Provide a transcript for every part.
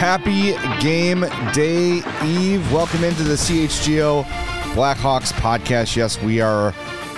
Happy game day eve. Welcome into the CHGO Blackhawks podcast. Yes, we are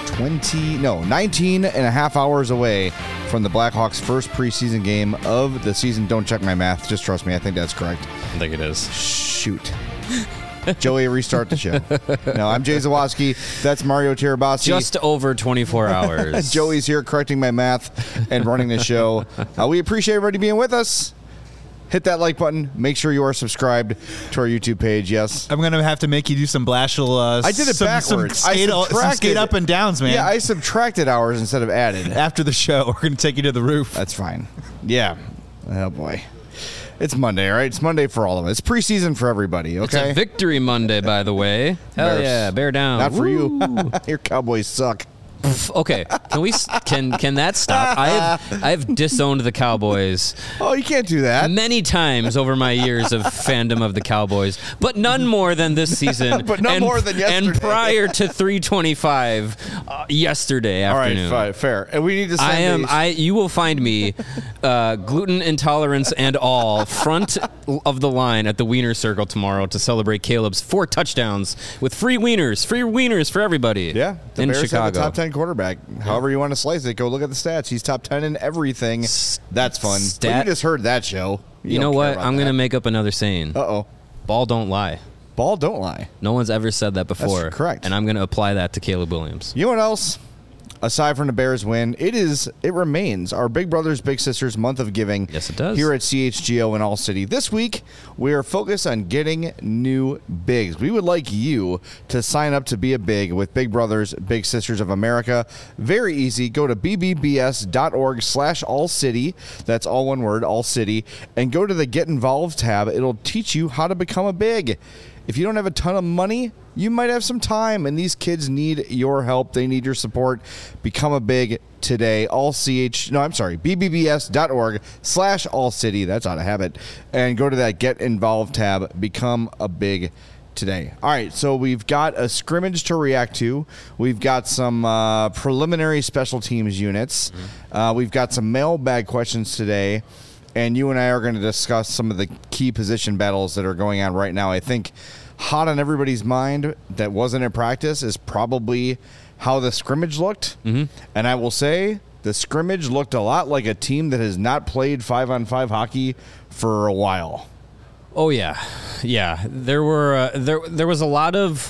19 and a half hours away from the Blackhawks' first preseason game of the season. Don't check my math. Just trust me. I think that's correct. I think it is. Shoot. Joey, restart the show. No, I'm Jay Zawoski. That's Mario Tirabassi. Just over 24 hours. Joey's here correcting my math and running the show. We appreciate everybody being with us. Hit that like button. Make sure you are subscribed to our YouTube page. Yes. I'm going to have to make you do some Blashill. I did it backwards. Some skate up and downs, man. Yeah, I subtracted hours instead of added. After the show, we're going to take you to the roof. That's fine. Yeah. Oh, boy. It's Monday, right? It's Monday for all of us. It's preseason for everybody, okay? It's a victory Monday, by the way. Hell Bears. yeah, bear down. Not for you. Your Cowboys suck. Okay, can that stop? I've disowned the Cowboys. Oh, you can't do that. Many times over my years of fandom of the Cowboys, but none more than this season. But none more than yesterday. And prior to 3:25 yesterday afternoon. All right, fair. And we need to send You will find me, gluten intolerance and all, front of the line at the Wiener Circle tomorrow to celebrate Caleb's 4 touchdowns with free wieners for everybody. Yeah, the in Bears Chicago. have a top 10 quarterback. However you want to slice it, go look at the stats. He's top 10 in everything. That's fun. But you just heard that show. You know what? I'm going to make up another saying. Uh-oh. Ball don't lie. Ball don't lie. No one's ever said that before. That's correct. And I'm going to apply that to Caleb Williams. You know what else? Aside from the Bears win, it remains our Big Brothers Big Sisters month of giving. Yes, it does. Here at CHGO in All City. This week, we are focused on getting new bigs. We would like you to sign up to be a big with Big Brothers Big Sisters of America. Very easy. Go to bbbs.org/allcity. That's all one word, All City. And go to the Get Involved tab. It'll teach you how to become a big. If you don't have a ton of money, you might have some time, and these kids need your help. They need your support. Become a big today. bbbs.org/allcity. That's out of habit. And go to that Get Involved tab. Become a big today. All right, so we've got a scrimmage to react to. We've got some preliminary special teams units. We've got some mailbag questions today. And you and I are going to discuss some of the key position battles that are going on right now. I think hot on everybody's mind that wasn't in practice is probably how the scrimmage looked. Mm-hmm. And I will say the scrimmage looked a lot like a team that has not played 5-on-5 hockey for a while. Oh, yeah. Yeah. There was a lot of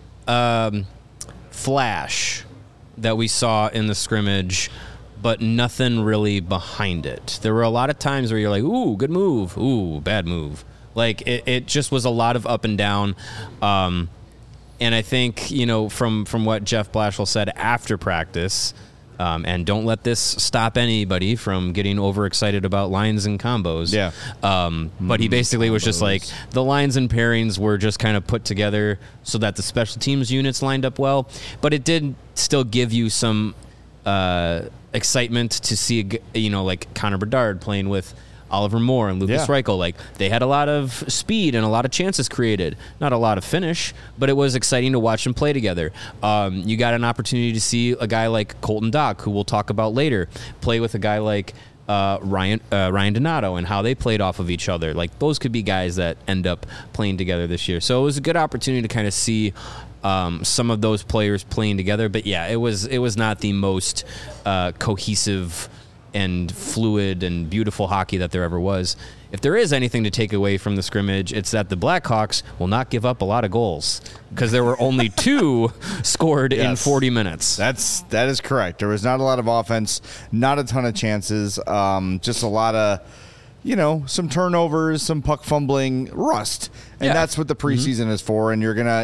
flash that we saw in the scrimmage, but nothing really behind it. There were a lot of times where you're like, ooh, good move. Ooh, bad move. Like, it just was a lot of up and down. And I think, from what Jeff Blashill said after practice, and don't let this stop anybody from getting overexcited about lines and combos. Yeah. But he basically was just like, the lines and pairings were just kind of put together so that the special teams units lined up well. But it did still give you some excitement to see, like Connor Bedard playing with Oliver Moore and Lucas Reichel. Like, they had a lot of speed and a lot of chances created. Not a lot of finish, but it was exciting to watch them play together. You got an opportunity to see a guy like Colton Dock, who we'll talk about later, play with a guy like Ryan Donato and how they played off of each other. Like, those could be guys that end up playing together this year. So it was a good opportunity to kind of see some of those players playing together. But yeah, it was not the most cohesive and fluid and beautiful hockey that there ever was. If there is anything to take away from the scrimmage, it's that the Blackhawks will not give up a lot of goals, because there were only 2 scored in 40 minutes. That is correct. There was not a lot of offense, not a ton of chances, just a lot of, some turnovers, some puck fumbling, rust. And that's what the preseason is for. And you're going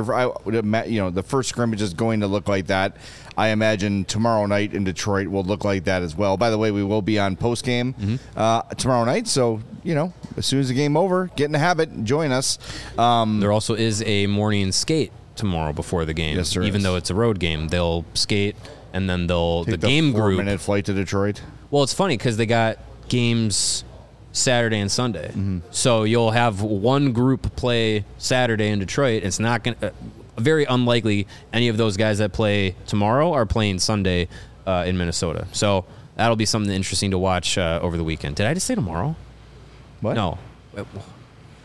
to, the first scrimmage is going to look like that. I imagine tomorrow night in Detroit will look like that as well. By the way, we will be on postgame tomorrow night. So, as soon as the game over, get in the habit, join us. There also is a morning skate tomorrow before the game. Yes, even though it's a road game. They'll skate, and then the game group. 4-minute flight to Detroit. Well, it's funny because they got games Saturday and Sunday. Mm-hmm. So you'll have one group play Saturday in Detroit. It's not going to... very unlikely any of those guys that play tomorrow are playing Sunday in Minnesota. So that'll be something interesting to watch over the weekend. Did I just say tomorrow? What? No.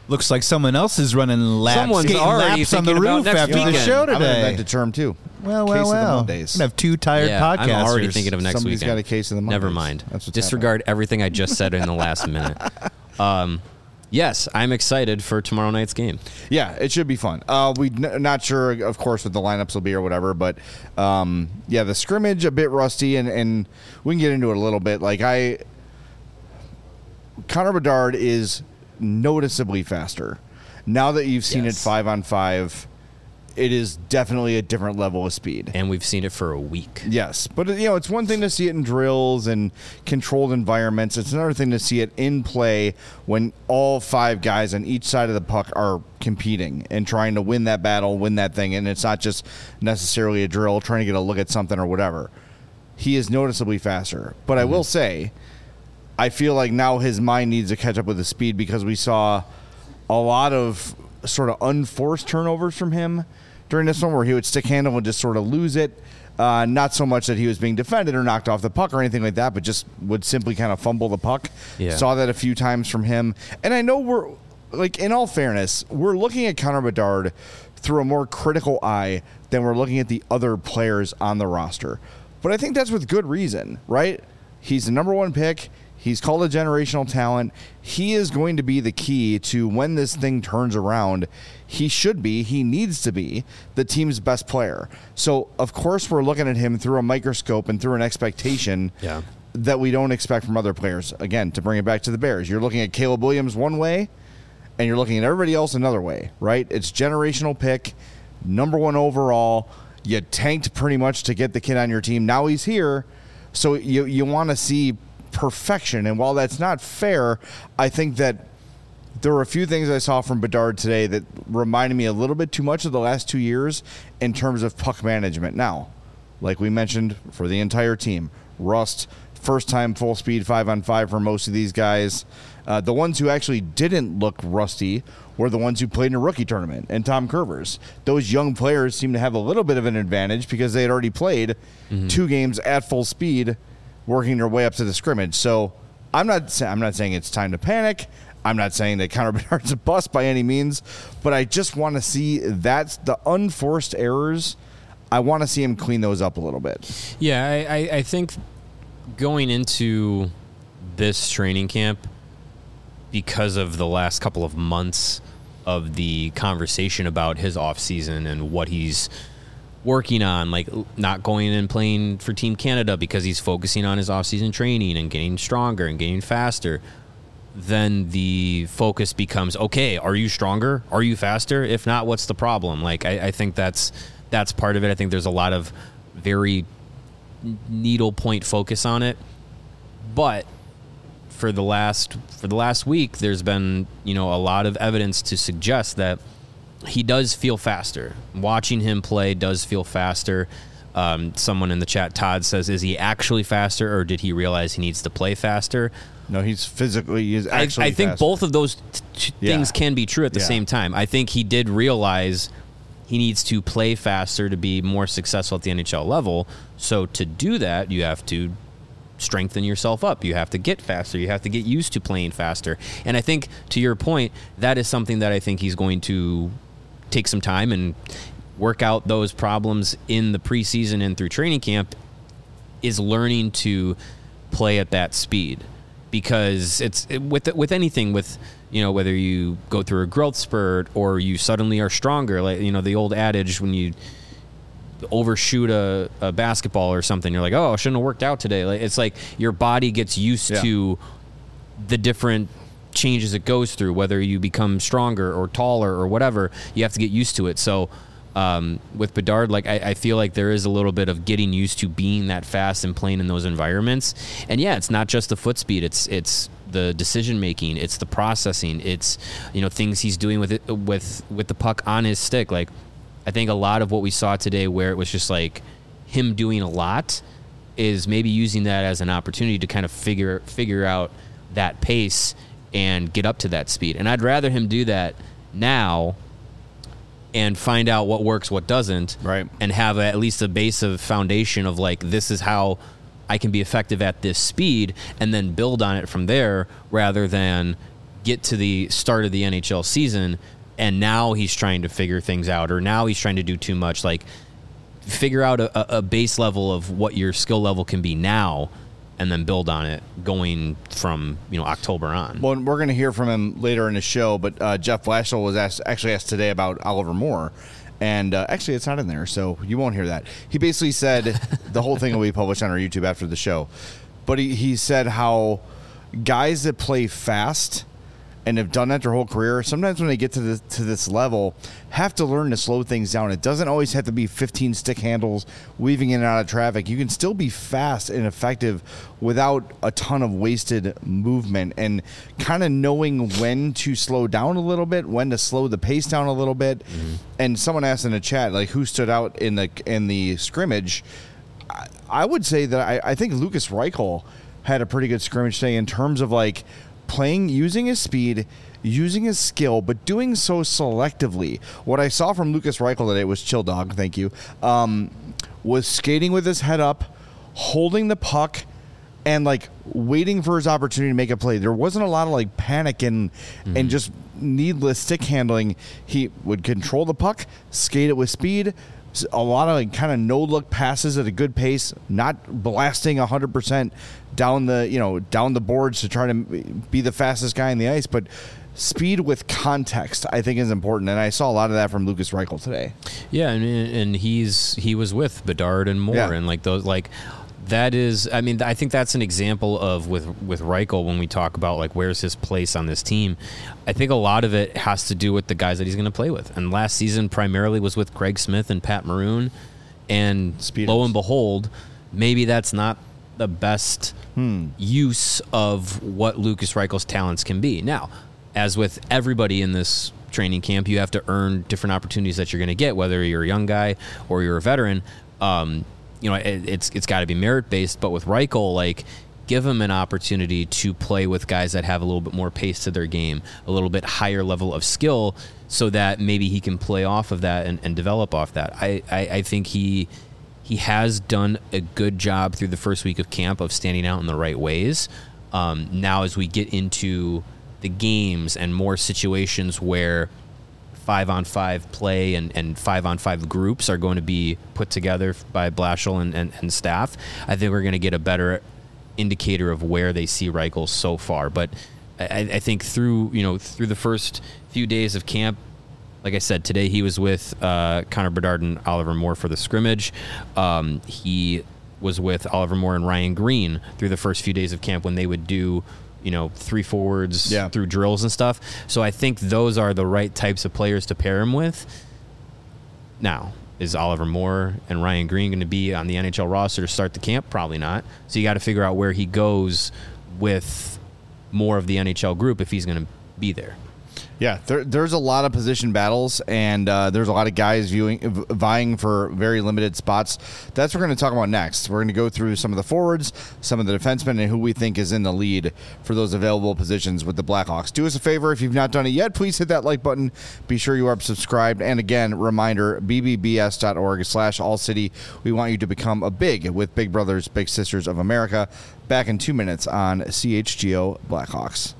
Looks like someone else is running laps. Someone's skating already laps on the thinking about roof next after the weekend. show I'm going to today. invent a term, too. Well. Case of the We're Mondays. gonna have two tired Yeah, podcasters. I'm already thinking of next Somebody's weekend. got a case of the Mondays. Never mind. That's what's Disregard everything I just said in the last minute. Yes, I'm excited for tomorrow night's game. Yeah, it should be fun. Not sure, of course, what the lineups will be or whatever, but yeah, the scrimmage a bit rusty, and we can get into it a little bit. Like Connor Bedard is noticeably faster. Now that you've seen it Yes. 5-on-5, it is definitely a different level of speed. And we've seen it for a week. Yes, but it's one thing to see it in drills and controlled environments. It's another thing to see it in play when all 5 guys on each side of the puck are competing and trying to win that battle, win that thing, and it's not just necessarily a drill trying to get a look at something or whatever. He is noticeably faster, but I will say, I feel like now his mind needs to catch up with his speed because we saw a lot of sort of unforced turnovers from him during this one where he would stick handle and just sort of lose it. Not so much that he was being defended or knocked off the puck or anything like that, but just would simply kind of fumble the puck. Yeah. Saw that a few times from him. And I know we're, like, in all fairness, we're looking at Connor Bedard through a more critical eye than we're looking at the other players on the roster. But I think that's with good reason, right? He's the number 1 pick. He's called a generational talent. He is going to be the key to when this thing turns around. He needs to be the team's best player. So, of course, we're looking at him through a microscope and through an expectation that we don't expect from other players. Again, to bring it back to the Bears, you're looking at Caleb Williams one way, and you're looking at everybody else another way, right? It's generational pick, number 1 overall. You tanked pretty much to get the kid on your team. Now he's here, so you want to see perfection. And while that's not fair, I think that there were a few things I saw from Bedard today that reminded me a little bit too much of the last 2 years in terms of puck management. Now, like we mentioned, for the entire team, rust, first time full speed 5-on-5 for most of these guys. The ones who actually didn't look rusty were the ones who played in a rookie tournament, and Tom Curvers. Those young players seem to have a little bit of an advantage because they had already played 2 games at full speed, working their way up to the scrimmage. So I'm not saying it's time to panic. I'm not saying that Connor Bedard's a bust by any means, but I just want to see that's the unforced errors. I want to see him clean those up a little bit. Yeah, I think going into this training camp, because of the last couple of months of the conversation about his offseason and what he's working on, like not going and playing for Team Canada because he's focusing on his offseason training and getting stronger and getting faster, then the focus becomes, okay, are you stronger? Are you faster? If not, what's the problem? Like, I think that's part of it. I think there's a lot of very needle point focus on it. But for the last week, there's been, a lot of evidence to suggest that he does feel faster. Watching him play does feel faster. Someone in the chat, Todd, says, is he actually faster, or did he realize he needs to play faster? No, he's actually I think faster. both of those things can be true at the same time. I think he did realize he needs to play faster to be more successful at the NHL level. So to do that, you have to strengthen yourself up. You have to get faster. You have to get used to playing faster. And I think, to your point, that is something that I think he's going to take some time and work out those problems in the preseason and through training camp, is learning to play at that speed. Because with anything, with whether you go through a growth spurt or you suddenly are stronger, like the old adage, when you overshoot a basketball or something, you're like, oh, I shouldn't have worked out today. Like, it's like your body gets used to the different changes it goes through, whether you become stronger or taller or whatever, you have to get used to it. So with Bedard, like I feel like there is a little bit of getting used to being that fast and playing in those environments. And yeah, it's not just the foot speed, it's the decision making, it's the processing, it's things he's doing with it with the puck on his stick. Like, I think a lot of what we saw today, where it was just like him doing a lot, is maybe using that as an opportunity to kind of figure out that pace and get up to that speed. And I'd rather him do that now and find out what works, what doesn't, right, and have at least a base of foundation of like, this is how I can be effective at this speed, and then build on it from there, rather than get to the start of the NHL season, and now he's trying to figure things out, or now he's trying to do too much. Like, figure out a base level of what your skill level can be now, and then build on it going from October on. Well, we're going to hear from him later in the show, but Jeff Blashill was actually asked today about Oliver Moore, and actually it's not in there, so you won't hear that. He basically said the whole thing will be published on our YouTube after the show, but he said how guys that play fast and have done that their whole career, sometimes when they get to this level, have to learn to slow things down. It doesn't always have to be 15 stick handles, weaving in and out of traffic. You can still be fast and effective without a ton of wasted movement, and kind of knowing when to slow down a little bit, when to slow the pace down a little bit. Mm-hmm. And someone asked in the chat, like, who stood out in the scrimmage. I would say that I think Lukas Reichel had a pretty good scrimmage today in terms of like using his speed, using his skill, but doing so selectively. What I saw from Lukas Reichel today was chill dog, thank you, was skating with his head up, holding the puck, and like waiting for his opportunity to make a play. There wasn't a lot of like panic and just needless stick handling. He would control the puck, skate it with speed, a lot of like kind of no-look passes at a good pace, not blasting 100% down the boards to try to be the fastest guy in the ice, but speed with context, I think, is important, and I saw a lot of that from Lukas Reichel today. Yeah, and he was with Bedard and Moore, and like those like. That is, I mean, I think that's an example of with Reichel when we talk about like where's his place on this team. I think a lot of it has to do with the guys that he's going to play with. And last season primarily was with Craig Smith and Pat Maroon. And lo and behold, maybe that's not the best use of what Lukas Reichel's talents can be. Now, as with everybody in this training camp, you have to earn different opportunities that you're going to get, whether you're a young guy or you're a veteran. It's got to be merit-based, but with Reichel, like, give him an opportunity to play with guys that have a little bit more pace to their game, a little bit higher level of skill, so that maybe he can play off of that and develop off that. I think he has done a good job through the first week of camp of standing out in the right ways. Now as we get into the games and more situations where 5-on-5 play and 5-on-5 groups are going to be put together by Blashill and staff, I think we're going to get a better indicator of where they see Reichel so far. But I think through the first few days of camp, like I said, today he was with Connor Bedard and Oliver Moore for the scrimmage. He was with Oliver Moore and Ryan Green through the first few days of camp when they would do 3 forwards through drills and stuff. So I think those are the right types of players to pair him with. Now, is Oliver Moore and Ryan Green going to be on the NHL roster to start the camp? Probably not. So you got to figure out where he goes with more of the NHL group if he's going to be there. Yeah, there's a lot of position battles, and there's a lot of guys vying for very limited spots. That's what we're going to talk about next. We're going to go through some of the forwards, some of the defensemen, and who we think is in the lead for those available positions with the Blackhawks. Do us a favor, if you've not done it yet, please hit that like button. Be sure you are subscribed. And again, reminder, bbbs.org/allcity. We want you to become a big with Big Brothers, Big Sisters of America. Back in 2 minutes on CHGO Blackhawks.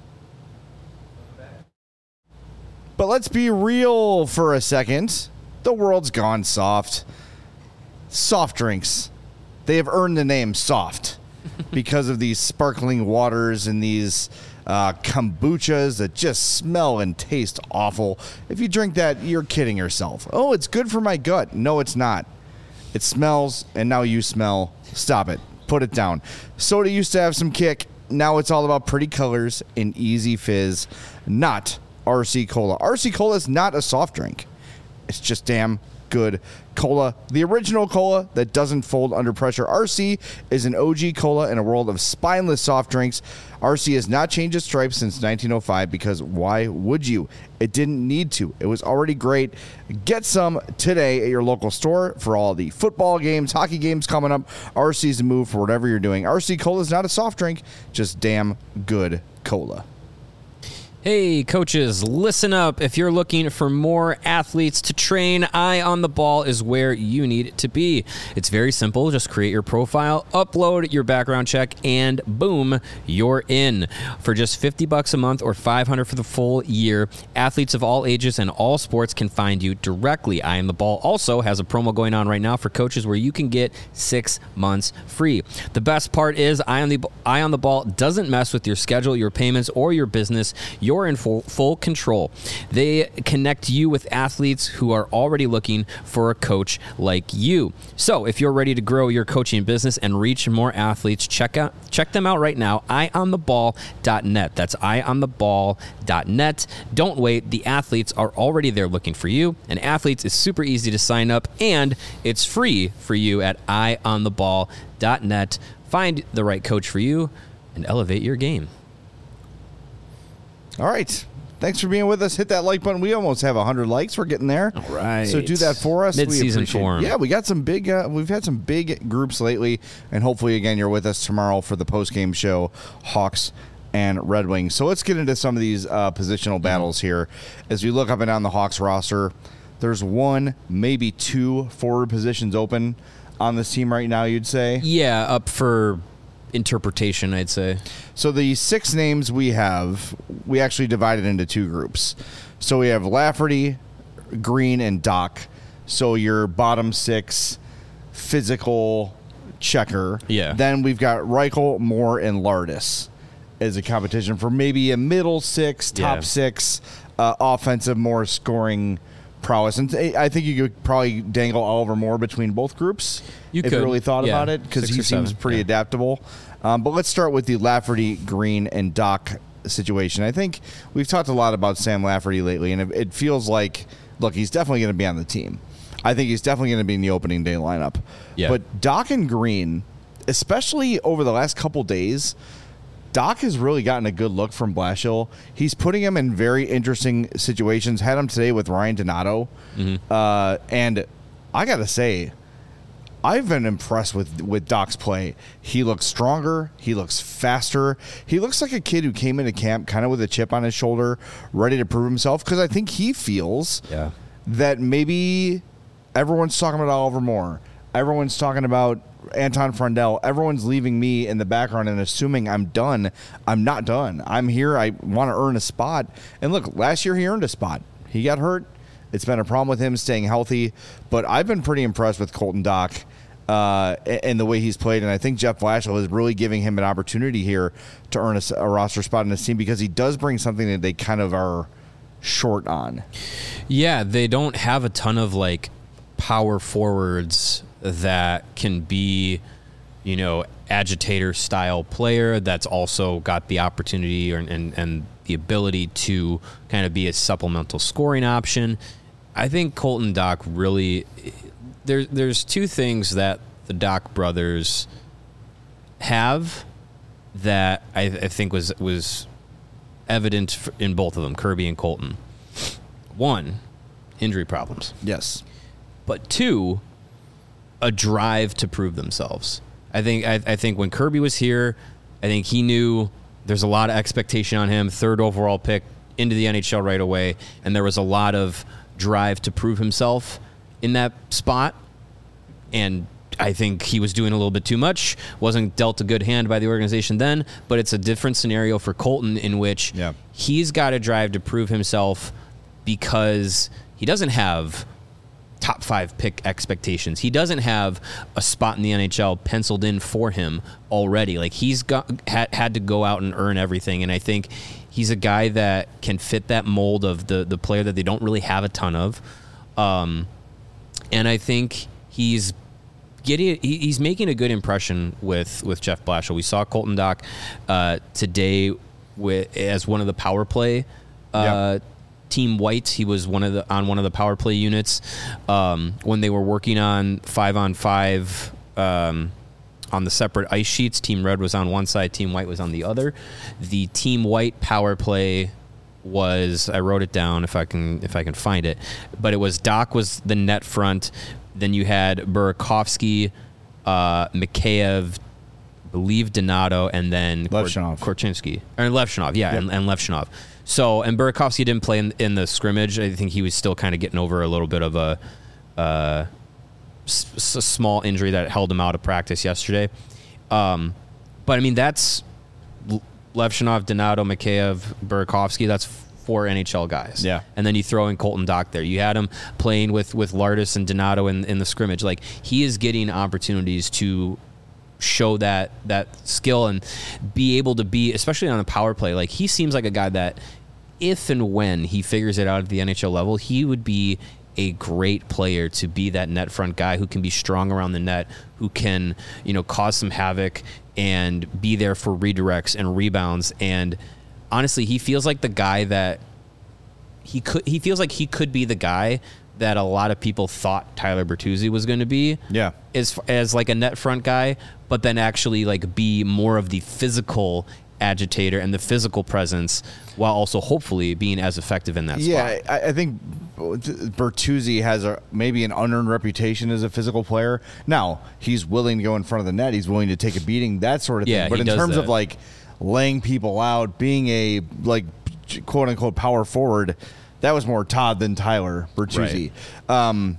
But let's be real for a second. The world's gone soft. Soft drinks. They have earned the name soft because of these sparkling waters and these kombuchas that just smell and taste awful. If you drink that, you're kidding yourself. Oh, it's good for my gut. No, it's not. It smells, and now you smell. Stop it. Put it down. Soda used to have some kick. Now it's all about pretty colors and easy fizz. Not RC Cola. RC Cola is not a soft drink. It's just damn good cola. The original cola that doesn't fold under pressure. RC is an OG cola in a world of spineless soft drinks. RC has not changed its stripes since 1905 because why would you? It didn't need to. It was already great. Get some today at your local store for all the football games, hockey games coming up. RC's the move for whatever you're doing. RC Cola is not a soft drink, just damn good cola. Hey, coaches, listen up. If you're looking for more athletes to train, Eye on the Ball is where you need to be. It's very simple. Just create your profile, upload your background check, and boom, you're in. For just $50 a month or $500 for the full year, athletes of all ages and all sports can find you directly. Eye on the Ball also has a promo going on right now for coaches where you can get 6 months free. The best part is Eye on the Ball doesn't mess with your schedule, your payments, or your business. You're in full control. They connect you with athletes who are already looking for a coach like you. So if you're ready to grow your coaching business and reach more athletes, check them out right now, eyeontheball.net. That's eyeontheball.net. Don't wait. The athletes are already there looking for you, and athletes is super easy to sign up, and it's free for you at eyeontheball.net. Find the right coach for you and elevate your game. All right. Thanks for being with us. Hit that like button. We almost have 100 likes. We're getting there. All right. So do that for us. Mid-season form. Yeah, we got some big. We've had some big groups lately, and hopefully, again, you're with us tomorrow for the post-game show, Hawks and Red Wings. So let's get into some of these positional battles here. As we look up and down the Hawks roster, there's one, maybe two forward positions open on this team right now, you'd say? Yeah, up for interpretation, I'd say. So the 6 names we have, we actually divided into 2 groups. So we have Lafferty, Green, and Doc. So your bottom 6 physical checker. Yeah. Then we've got Reichel, Moore, and Lardis as a competition for maybe a middle 6, top 6 offensive, more scoring prowess. And I think you could probably dangle Oliver Moore between both groups if you really thought about it, because he seems pretty adaptable. But let's start with the Lafferty, Green, and Doc situation. I think we've talked a lot about Sam Lafferty lately, and it feels like, look, he's definitely going to be on the team. I think he's definitely going to be in the opening day lineup. Yeah. But Doc and Green, especially over the last couple days, Doc has really gotten a good look from Blashill. He's putting him in very interesting situations. Had him today with Ryan Donato. And I got to say, I've been impressed with Doc's play. He looks stronger. He looks faster. He looks like a kid who came into camp kind of with a chip on his shoulder, ready to prove himself, because I think he feels that maybe everyone's talking about Oliver Moore. Everyone's talking about Anton Frondell. Everyone's leaving me in the background and assuming I'm done. I'm not done. I'm here. I want to earn a spot. And look, last year he earned a spot. He got hurt. It's been a problem with him staying healthy. But I've been pretty impressed with Colton Doc and the way he's played. And I think Jeff Blashill is really giving him an opportunity here to earn a roster spot in this team, because he does bring something that they kind of are short on. Yeah, they don't have a ton of like power forwards that can be, you know, agitator style player that's also got the opportunity and the ability to kind of be a supplemental scoring option. I think Colton Doc really, there's 2 things that the Doc brothers have that I think was evident in both of them, Kirby and Colton. 1, injury problems. Yes. But 2, a drive to prove themselves. I think when Kirby was here, I think he knew there's a lot of expectation on him, 3rd overall pick into the NHL right away, and there was a lot of drive to prove himself in that spot. And I think he was doing a little bit too much, wasn't dealt a good hand by the organization then, but it's a different scenario for Colton in which he's got a drive to prove himself because he doesn't have top 5 pick expectations. He doesn't have a spot in the NHL penciled in for him already. Like, he's had to go out and earn everything, and I think he's a guy that can fit that mold of the player that they don't really have a ton of. And I think he's making a good impression with Jeff Blashill. We saw Colton Doc today as one of the power play Team White. He was on one of the power play units when they were working on 5-on-5 on the separate ice sheets. Team Red was on one side, Team White was on the other. The Team White power play was, I wrote it down if I can find it, but it was Doc was the net front. Then you had Burakovsky, Mikheyev, believe Donato, and then Levchinov. Korchinski. Or Levchinov, and Levchinov. So, and Burakovsky didn't play in the scrimmage. I think he was still kind of getting over a little bit of a small injury that held him out of practice yesterday. But I mean, that's Levshinov, Donato, Mikheyev, Burakovsky. That's 4 NHL guys. Yeah. And then you throw in Colton Dach there. You had him playing with Lardis and Donato in the scrimmage. Like, he is getting opportunities to show that skill and be able to be, especially on a power play. Like, he seems like a guy that if and when he figures it out at the NHL level, he would be a great player to be that net front guy who can be strong around the net, who can, cause some havoc and be there for redirects and rebounds. And honestly, he feels like the guy that he feels like he could be the guy that a lot of people thought Tyler Bertuzzi was going to be. Yeah. As like a net front guy, but then actually like be more of the physical agitator and the physical presence, while also hopefully being as effective in that spot. Yeah, I think Bertuzzi has maybe an unearned reputation as a physical player. Now, he's willing to go in front of the net. He's willing to take a beating, that sort of thing. Yeah, but he in does terms that. of like laying people out, being a like quote unquote power forward, that was more Todd than Tyler Bertuzzi. Right.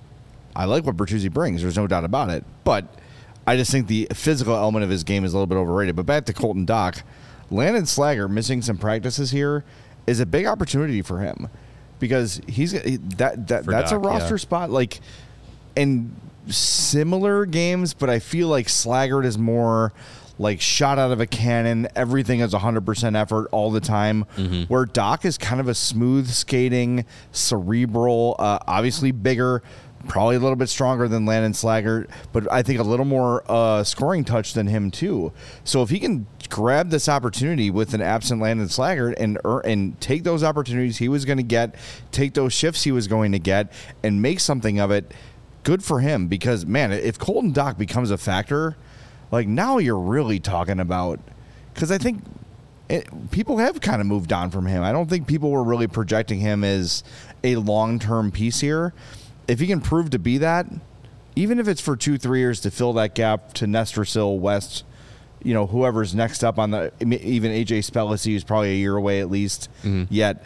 I like what Bertuzzi brings. There's no doubt about it. But I just think the physical element of his game is a little bit overrated. But back to Colton Dach, Landon Slager missing some practices here is a big opportunity for him, because that's Dach, a roster yeah. spot like in similar games, but I feel like Slaggert is more like shot out of a cannon. Everything is 100% effort all the time. Mm-hmm. Where Doc is kind of a smooth skating, cerebral, obviously bigger, probably a little bit stronger than Landon Slaggert, but I think a little more scoring touch than him too. So if he can grab this opportunity with an absent Landon Slaggert and take those opportunities he was going to get, take those shifts he was going to get, and make something of it, good for him. Because, man, if Colton Dach becomes a factor, like, now you're really talking about, because I think people have kind of moved on from him. I don't think people were really projecting him as a long-term piece here. If he can prove to be that, even if it's for 2-3 years to fill that gap to Nestor Sill, West, whoever's next up on the, even AJ Spellicy is probably a year away at least yet.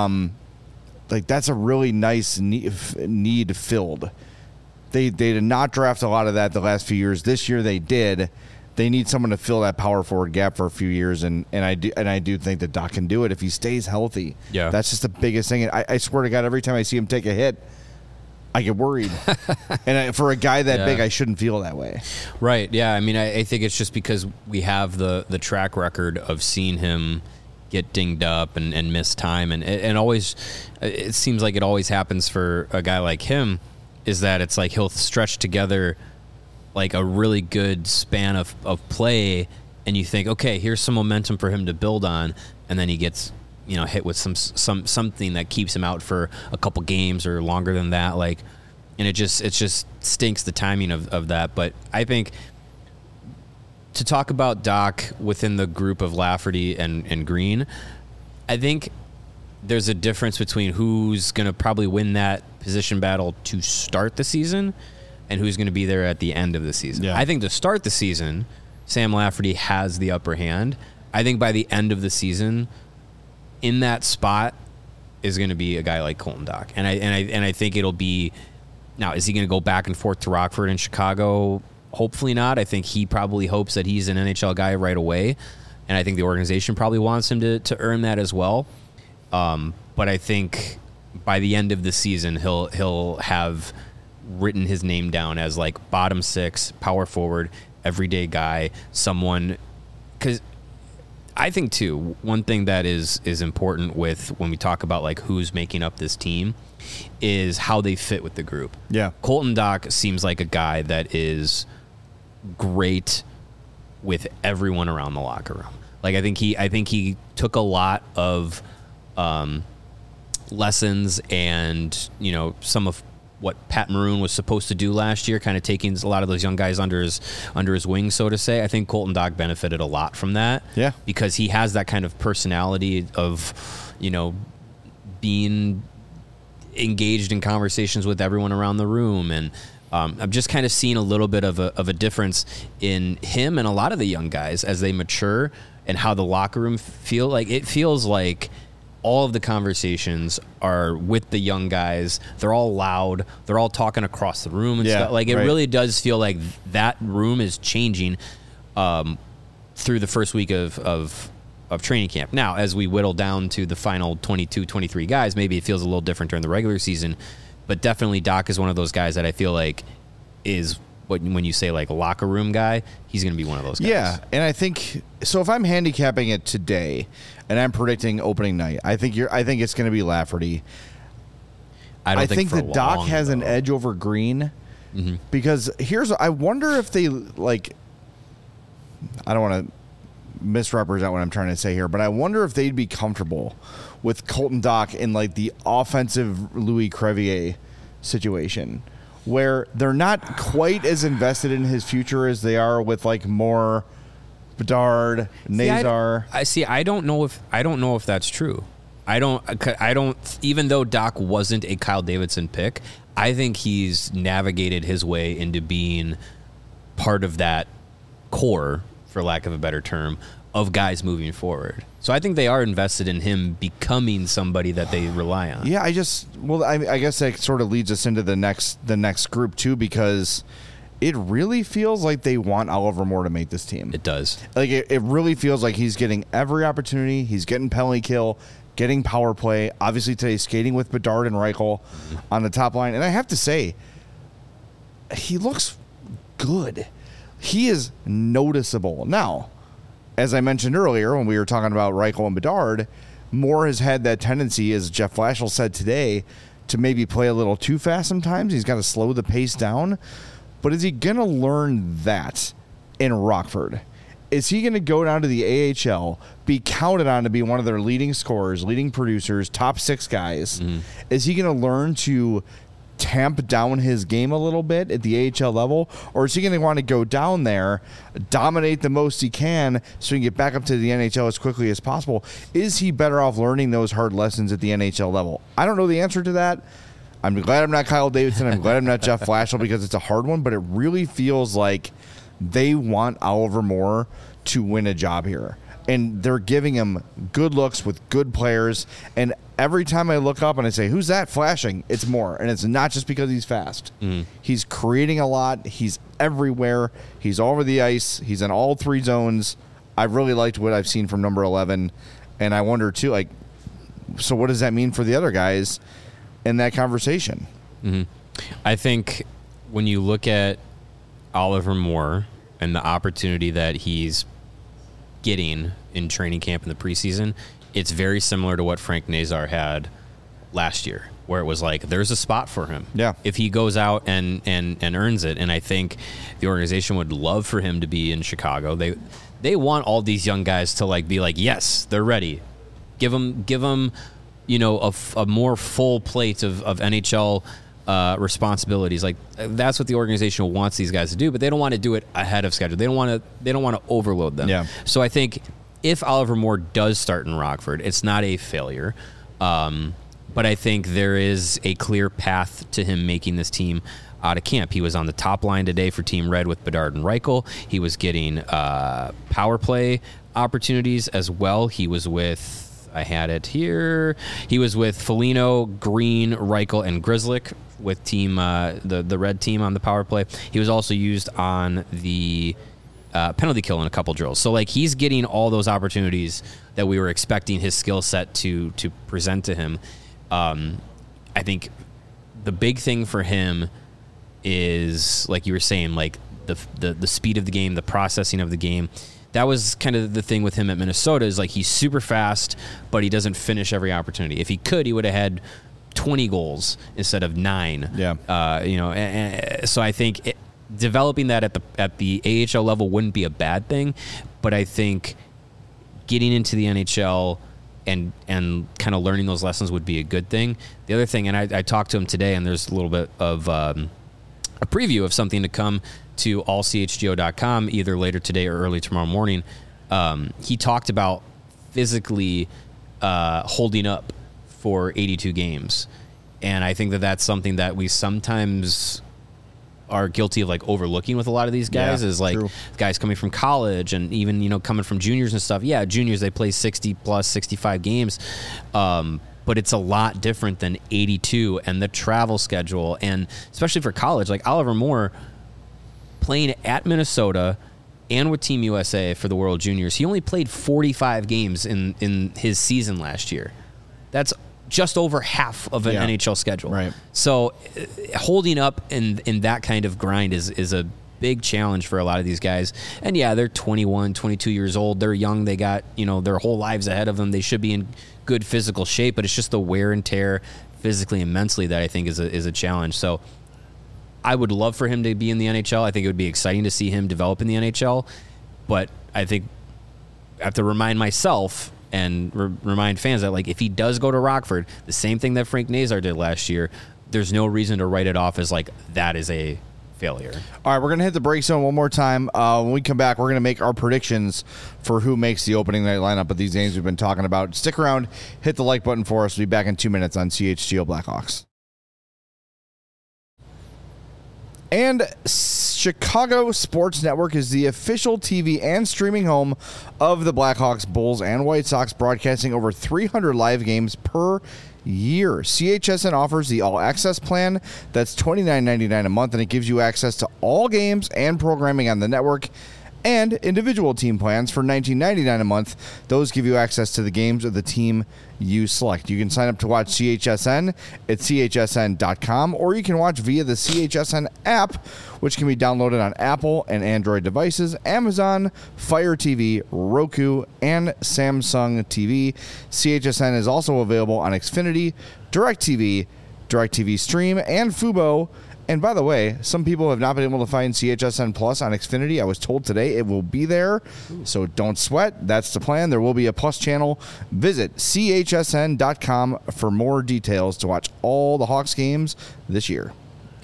Like, that's a really nice need filled. They did not draft a lot of that the last few years. This year they did. They need someone to fill that power forward gap for a few years, and I do think that Doc can do it if he stays healthy. Yeah, that's just the biggest thing. I swear to God, every time I see him take a hit, I get worried. And for a guy that big, I shouldn't feel that way. Right. Yeah. I mean, I think it's just because we have the track record of seeing him get dinged up and miss time, and always, it seems like it always happens for a guy like him. Is that it's like he'll stretch together like a really good span of play, and you think, okay, here's some momentum for him to build on, and then he gets hit with something that keeps him out for a couple games or longer than that, like, and it just stinks, the timing of that. But I think to talk about Doc within the group of Lafferty and Green, I think there's a difference between who's going to probably win that position battle to start the season and who's going to be there at the end of the season. Yeah. I think to start the season, Sam Lafferty has the upper hand. I think by the end of the season, in that spot is going to be a guy like Colton Dach. And I think it'll be, now, is he going to go back and forth to Rockford and Chicago? Hopefully not. I think he probably hopes that he's an NHL guy right away. And I think the organization probably wants him to earn that as well. But I think by the end of the season, he'll have written his name down as like bottom six, power forward, everyday guy, someone. Because I think too, one thing that is important with when we talk about like who's making up this team is how they fit with the group. Yeah, Colton Dach seems like a guy that is great with everyone around the locker room. Like, I think he took a lot of lessons and some of what Pat Maroon was supposed to do last year, kind of taking a lot of those young guys under his wing, so to say. I think Colton Dach benefited a lot from that. Yeah, because he has that kind of personality of being engaged in conversations with everyone around the room, and I'm just kind of seeing a little bit of a difference in him and a lot of the young guys as they mature and how the locker room feel. Like, it feels like all of the conversations are with the young guys. They're all loud. They're all talking across the room and stuff. Like, it really does feel like that room is changing through the first week of training camp. Now, as we whittle down to the final 22, 23 guys, maybe it feels a little different during the regular season. But definitely Doc is one of those guys that I feel like is, when you say like locker room guy, he's going to be one of those guys. Yeah, and I think so. If I'm handicapping it today, and I'm predicting opening night, I think it's going to be Lafferty. I think the Doc has an edge over Green because I wonder if they like. I don't want to misrepresent what I'm trying to say here, but I wonder if they'd be comfortable with Colton Doc in like the offensive Louis Crevier situation, where they're not quite as invested in his future as they are with like more Bedard, Nazar. I don't know if that's true. I don't. Even though Doc wasn't a Kyle Davidson pick, I think he's navigated his way into being part of that core, for lack of a better term, of guys moving forward. So I think they are invested in him becoming somebody that they rely on. Yeah, I guess that sort of leads us into the next group too, because it really feels like they want Oliver Moore to make this team. It does. Like it really feels like he's getting every opportunity. He's getting penalty kill, getting power play. Obviously today skating with Bedard and Reichel on the top line. And I have to say, he looks good. He is noticeable. Now, as I mentioned earlier when we were talking about Reichel and Bedard, Moore has had that tendency, as Jeff Flashel said today, to maybe play a little too fast sometimes. He's got to slow the pace down. But is he going to learn that in Rockford? Is he going to go down to the AHL, be counted on to be one of their leading scorers, leading producers, top 6 guys? Is he going to learn to tamp down his game a little bit at the AHL level, or is he going to want to go down there, dominate the most he can so he can get back up to the NHL as quickly as possible? Is he better off learning those hard lessons at the NHL level? I don't know the answer to that. I'm glad I'm not Kyle Davidson. I'm glad I'm not Jeff Flashel, because it's a hard one, but it really feels like they want Oliver Moore to win a job here. And they're giving him good looks with good players. And every time I look up and I say, who's that flashing? It's Moore. And it's not just because he's fast. He's creating a lot. He's everywhere. He's all over the ice. He's in all 3 zones. I really liked what I've seen from number 11. And I wonder, too, like, so what does that mean for the other guys in that conversation? I think when you look at Oliver Moore and the opportunity that he's getting in training camp in the preseason, it's very similar to what Frank Nazar had last year, where it was like, there's a spot for him. Yeah. If he goes out and earns it. And I think the organization would love for him to be in Chicago. They want all these young guys to like be like, yes, they're ready. Give them, you know, a more full plate of NHL responsibilities. Like, that's what the organization wants these guys to do, but they don't want to do it ahead of schedule. They don't want to overload them. Yeah. So I think if Oliver Moore does start in Rockford, it's not a failure. But I think there is a clear path to him making this team out of camp. He was on the top line today for Team Red with Bedard and Reichel. He was getting power play opportunities as well. He was with, I had it here, he was with Foligno, Green, Reichel, and Grzelcyk with team the red team on the power play. He was also used on the penalty kill in a couple drills. So like, he's getting all those opportunities that we were expecting his skill set to present to him. I think the big thing for him is, like you were saying, like the speed of the game, the processing of the game. That was kind of the thing with him at Minnesota, is like, he's super fast, but he doesn't finish every opportunity. If he could, he would have had 20 goals instead of 9. Yeah. You know, and so I think developing that at the AHL level wouldn't be a bad thing, but I think getting into the NHL and kind of learning those lessons would be a good thing. The other thing, and I talked to him today, and there's a little bit of a preview of something to come to allchgo.com either later today or early tomorrow morning. He talked about physically holding up for 82 games. And I think that that's something that we sometimes are guilty of like overlooking with a lot of these guys is like true. guys coming from college and even coming from juniors and stuff. Yeah, juniors, they play 60 plus 65 games, but it's a lot different than 82 and the travel schedule, and especially for college, like Oliver Moore playing at Minnesota and with Team USA for the World Juniors, he only played 45 games in his season last year. That's just over half of an NHL schedule. Right. So holding up in that kind of grind is a big challenge for a lot of these guys. And yeah, they're 21, 22 years old. They're young. They got, their whole lives ahead of them. They should be in good physical shape, but it's just the wear and tear physically and mentally that I think is a challenge. So I would love for him to be in the NHL. I think it would be exciting to see him develop in the NHL. But I think I have to remind myself and remind fans that, like, if he does go to Rockford, the same thing that Frank Nazar did last year, there's no reason to write it off as, like, that is a failure. All right, we're going to hit the break zone one more time. When we come back, we're going to make our predictions for who makes the opening night lineup of these games we've been talking about. Stick around. Hit the like button for us. We'll be back in 2 minutes on CHGO Blackhawks. And Chicago Sports Network is the official TV and streaming home of the Blackhawks, Bulls, and White Sox, broadcasting over 300 live games per year. CHSN offers the All Access plan. That's $29.99 a month, and it gives you access to all games and programming on the network, and individual team plans for $19.99 a month. Those give you access to the games of the team you select. You can sign up to watch CHSN at chsn.com, or you can watch via the CHSN app, which can be downloaded on Apple and Android devices, Amazon, Fire TV, Roku, and Samsung TV. CHSN is also available on Xfinity, DirecTV, DirecTV Stream, and Fubo. And by the way, some people have not been able to find CHSN Plus on Xfinity. I was told today it will be there, so don't sweat. That's the plan. There will be a Plus channel. Visit chsn.com for more details to watch all the Hawks games this year.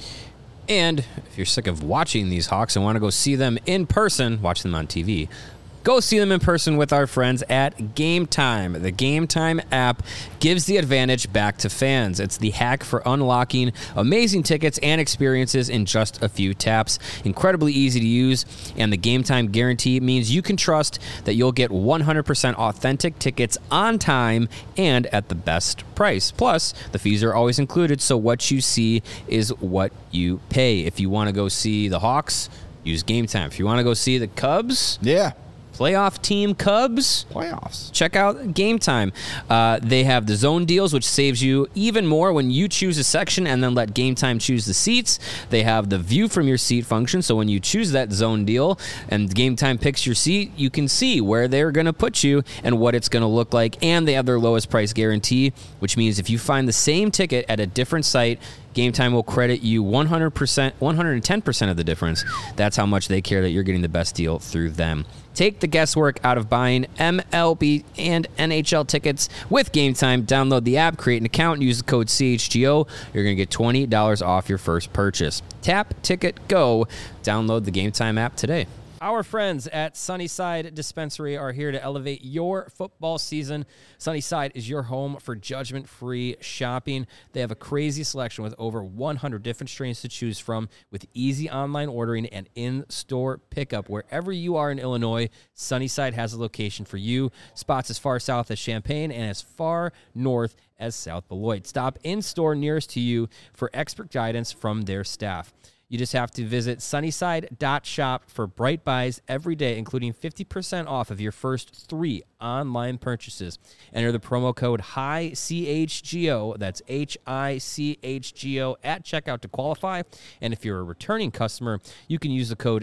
And if you're sick of watching these Hawks and want to go see them in person, watch them on TV, go see them in person with our friends at Game Time. The Game Time app gives the advantage back to fans. It's the hack for unlocking amazing tickets and experiences in just a few taps. Incredibly easy to use, and the Game Time guarantee means you can trust that you'll get 100% authentic tickets on time and at the best price. Plus, the fees are always included, so what you see is what you pay. If you want to go see the Hawks, use Game Time. If you want to go see the Cubs, playoff team Cubs, playoffs, check out Game Time. They have the zone deals, which saves you even more when you choose a section and then let Game Time choose the seats. They have the view from your seat function, so when you choose that zone deal and Game Time picks your seat, you can see where they're going to put you and what it's going to look like. And they have their lowest price guarantee, which means if you find the same ticket at a different site, Game Time will credit you 100%, 110% of the difference. That's how much they care that you're getting the best deal through them. Take the guesswork out of buying MLB and NHL tickets with Game Time. Download the app, create an account, and use the code CHGO. You're going to get $20 off your first purchase. Tap, ticket, go. Download the Game Time app today. Our friends at Sunnyside Dispensary are here to elevate your football season. Sunnyside is your home for judgment-free shopping. They have a crazy selection with over 100 different strains to choose from, with easy online ordering and in-store pickup. Wherever you are in Illinois, Sunnyside has a location for you. Spots as far south as Champaign and as far north as South Beloit. Stop in-store nearest to you for expert guidance from their staff. You just have to visit sunnyside.shop for bright buys every day, including 50% off of your first 3 online purchases. Enter the promo code HICHGO, that's HICHGO, at checkout to qualify. And if you're a returning customer, you can use the code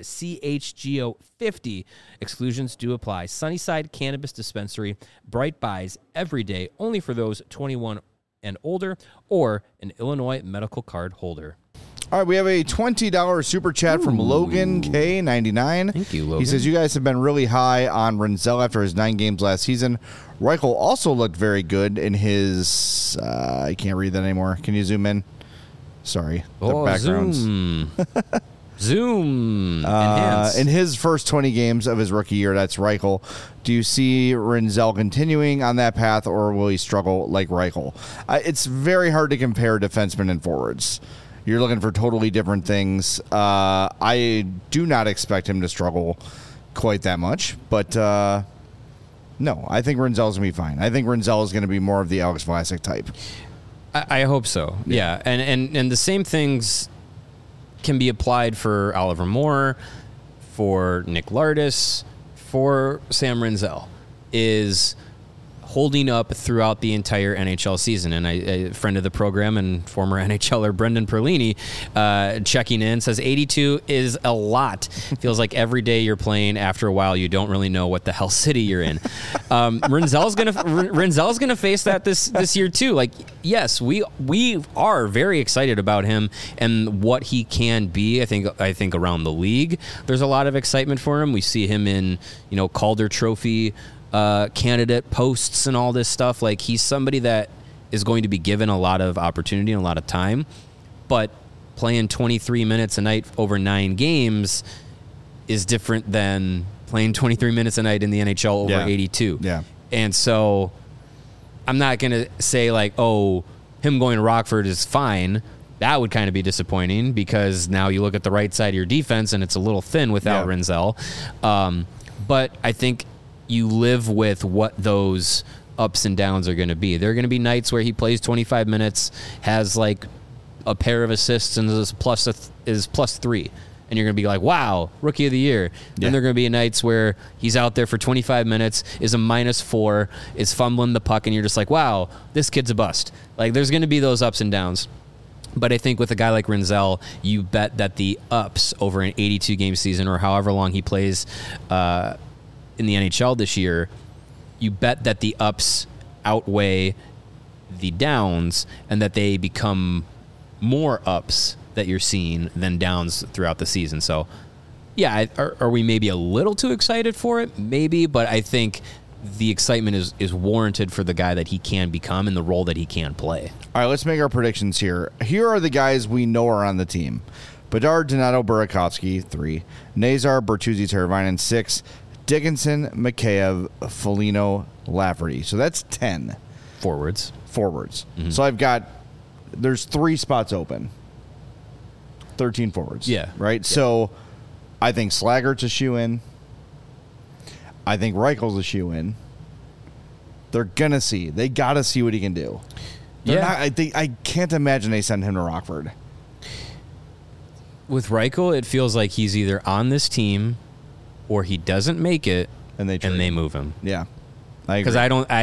CHGO50. Exclusions do apply. Sunnyside Cannabis Dispensary, bright buys every day, only for those 21 and older or an Illinois medical card holder. All right, we have a $20 super chat from Logan K99. Thank you, Logan. He says, you guys have been really high on Renzel after his 9 games last season. Reichel also looked very good in his... I can't read that anymore. Can you zoom in? Sorry. The backgrounds. Zoom. Enhance. In his first 20 games of his rookie year, that's Reichel. Do you see Renzel continuing on that path, or will he struggle like Reichel? It's very hard to compare defensemen and forwards. You're looking for totally different things. I do not expect him to struggle quite that much, but no, I think Rinzel's going to be fine. I think Rinzel is going to be more of the Alex Vlasic type. I hope so. Yeah. And the same things can be applied for Oliver Moore, for Nick Lardis, for Sam Rinzel, is holding up throughout the entire NHL season. And a friend of the program and former NHLer Brendan Perlini checking in says 82 is a lot. Feels like every day you're playing, after a while you don't really know what the hell city you're in. Rinzel's gonna face that this year too. Like, yes, we are very excited about him and what he can be. I think around the league there's a lot of excitement for him. We see him in Calder Trophy candidate posts and all this stuff. Like, he's somebody that is going to be given a lot of opportunity and a lot of time, but playing 23 minutes a night over 9 games is different than playing 23 minutes a night in the NHL over 82. Yeah. And so I'm not going to say like, oh, him going to Rockford is fine. That would kind of be disappointing, because now you look at the right side of your defense and it's a little thin without Rinzel. But I think you live with what those ups and downs are going to be. There are going to be nights where he plays 25 minutes, has like a pair of assists, and is plus 3. And you're going to be like, wow, rookie of the year. Then there are going to be nights where he's out there for 25 minutes, is a -4, is fumbling the puck, and you're just like, wow, this kid's a bust. Like, there's going to be those ups and downs. But I think with a guy like Rinzel, you bet that the ups over an 82-game season, or however long he plays in the NHL this year, you bet that the ups outweigh the downs, and that they become more ups that you're seeing than downs throughout the season. So, yeah, are we maybe a little too excited for it? Maybe, but I think the excitement is warranted for the guy that he can become and the role that he can play. All right, let's make our predictions here. Here are the guys we know are on the team. Bedard, Donato, Burakovsky, 3. Nazar, Bertuzzi, Teravainen, 6. Dickinson, Mikheyev, Foligno, Lafferty. So that's 10. Forwards. Mm-hmm. So there's 3 spots open. 13 forwards. Yeah. Right? Yeah. So I think Slaggert's a shoe-in. I think Reichel's a shoe-in. They're going to see. They got to see what he can do. I can't imagine they send him to Rockford. With Reichel, it feels like he's either on this team or he doesn't make it, and they move him. Yeah, I agree. Because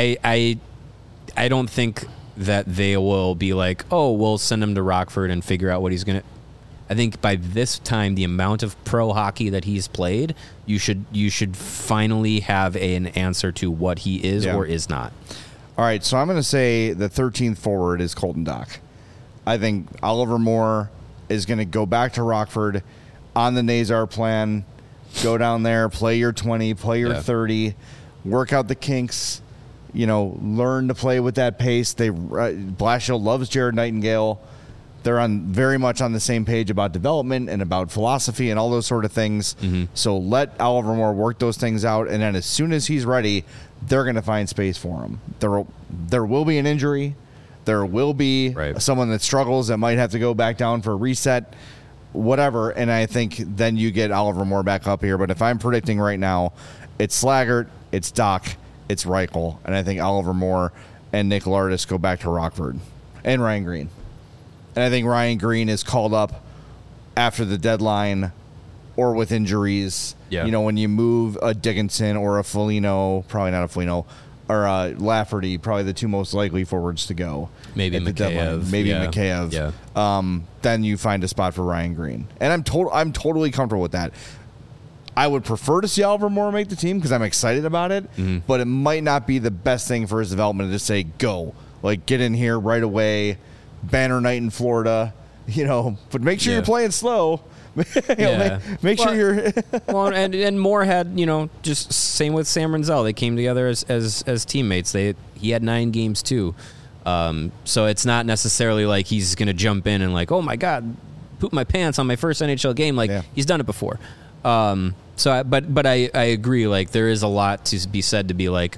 I don't think that they will be like, oh, we'll send him to Rockford and figure out what he's gonna. I think by this time, the amount of pro hockey that he's played, you should finally have an answer to what he is or is not. All right, so I'm going to say the 13th forward is Colton Dach. I think Oliver Moore is going to go back to Rockford on the Nazar plan. Go down there, play your 20, play your 30, work out the kinks, learn to play with that pace. Blashill loves Jared Nightingale. They're very much on the same page about development and about philosophy and all those sort of things. Mm-hmm. So let Oliver Moore work those things out, and then as soon as he's ready, they're going to find space for him. There will be an injury. There will be someone that struggles that might have to go back down for a reset, whatever, and I think then you get Oliver Moore back up here. But if I'm predicting right now, it's Slaggert, it's Dach, it's Reichel, and I think Oliver Moore and Nick Lardis go back to Rockford, and Ryan Green. And I think Ryan Green is called up after the deadline or with injuries. Yeah. When you move a Dickinson or a Foligno, probably not a Foligno, or a Lafferty, probably the 2 most likely forwards to go. Maybe Mikheyev. Mikheyev. Yeah. Then you find a spot for Ryan Green. And I'm totally comfortable with that. I would prefer to see Oliver Moore make the team because I'm excited about it, but it might not be the best thing for his development to just say, go. Like, get in here right away, banner night in Florida, but make sure you're playing slow. Make sure you're well, and Moore had just same with Sam Rinzel. They came together as teammates. He had 9 games too, so it's not necessarily like he's gonna jump in and like, oh my god, poop my pants on my first NHL game. Like he's done it before. But I agree. Like there is a lot to be said to be like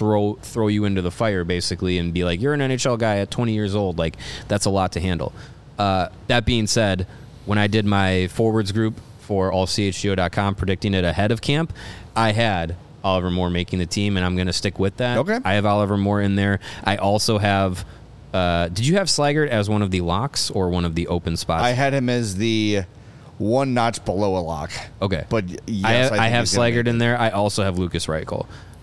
throw you into the fire basically and be like, you're an NHL guy at 20 years old. Like that's a lot to handle. That being said, when I did my forwards group for allchgo.com predicting it ahead of camp, I had Oliver Moore making the team, and I'm going to stick with that. Okay. I have Oliver Moore in there. I also have did you have Slaggert as one of the locks or one of the open spots? I had him as the one notch below a lock. Okay. But yes, I have he's gonna Slaggert make in it. there. I also have Lucas Reichel.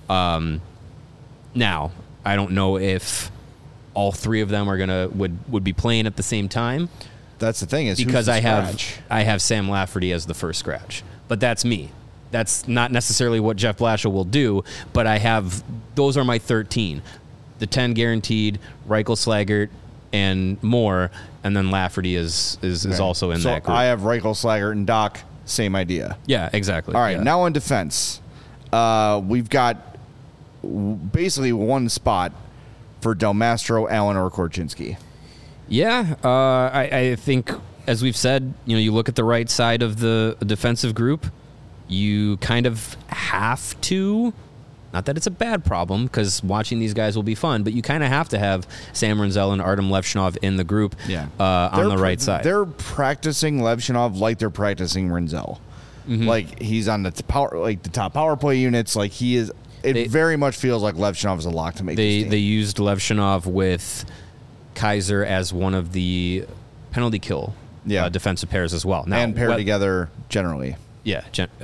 Now, I don't know if all three of them are would be playing at the same time. That's the thing is who's Because the I scratch? have Sam Lafferty as the first scratch. But that's me. That's not necessarily what Jeff Blashill will do, but those are my 13. The 10 guaranteed, Reichel, Slaggert, and Moore, and then Lafferty is Okay. also in so that group. I have Reichel, Slaggert, and Doc. Same idea. Yeah, exactly. All right, Yeah. now on defense. We've got basically one spot for Del Mastro, Allen, or Korchinski. Yeah, I think, as we've said, you look at the right side of the defensive group, you kind of have to, not that it's a bad problem, because watching these guys will be fun, but you kind of have to have Sam Renzel and Artem Levshinov in the group on the right side. They're practicing Levshinov like they're practicing Renzel. Like he's on the top power play units. Like he is. It very much feels like Levshinov is a lock to make this team. They used Levshinov with Kaiser as one of the penalty kill defensive pairs as well. Now, and paired together generally. Yeah,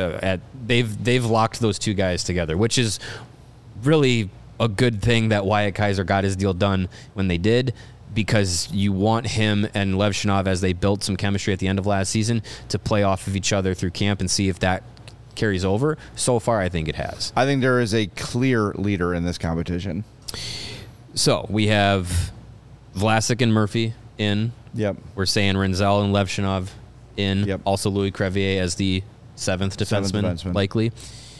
they've locked those two guys together, which is really a good thing that Wyatt Kaiser got his deal done when they did, because you want him and Levshinov, as they built some chemistry at the end of last season, to play off of each other through camp and see if that carries over. So far, I think it has. I think there is a clear leader in this competition. So we have Vlasic and Murphy in. Yep. We're saying Renzel and Levshinov in. Yep. Also Louis Crevier as the seventh defenseman, likely.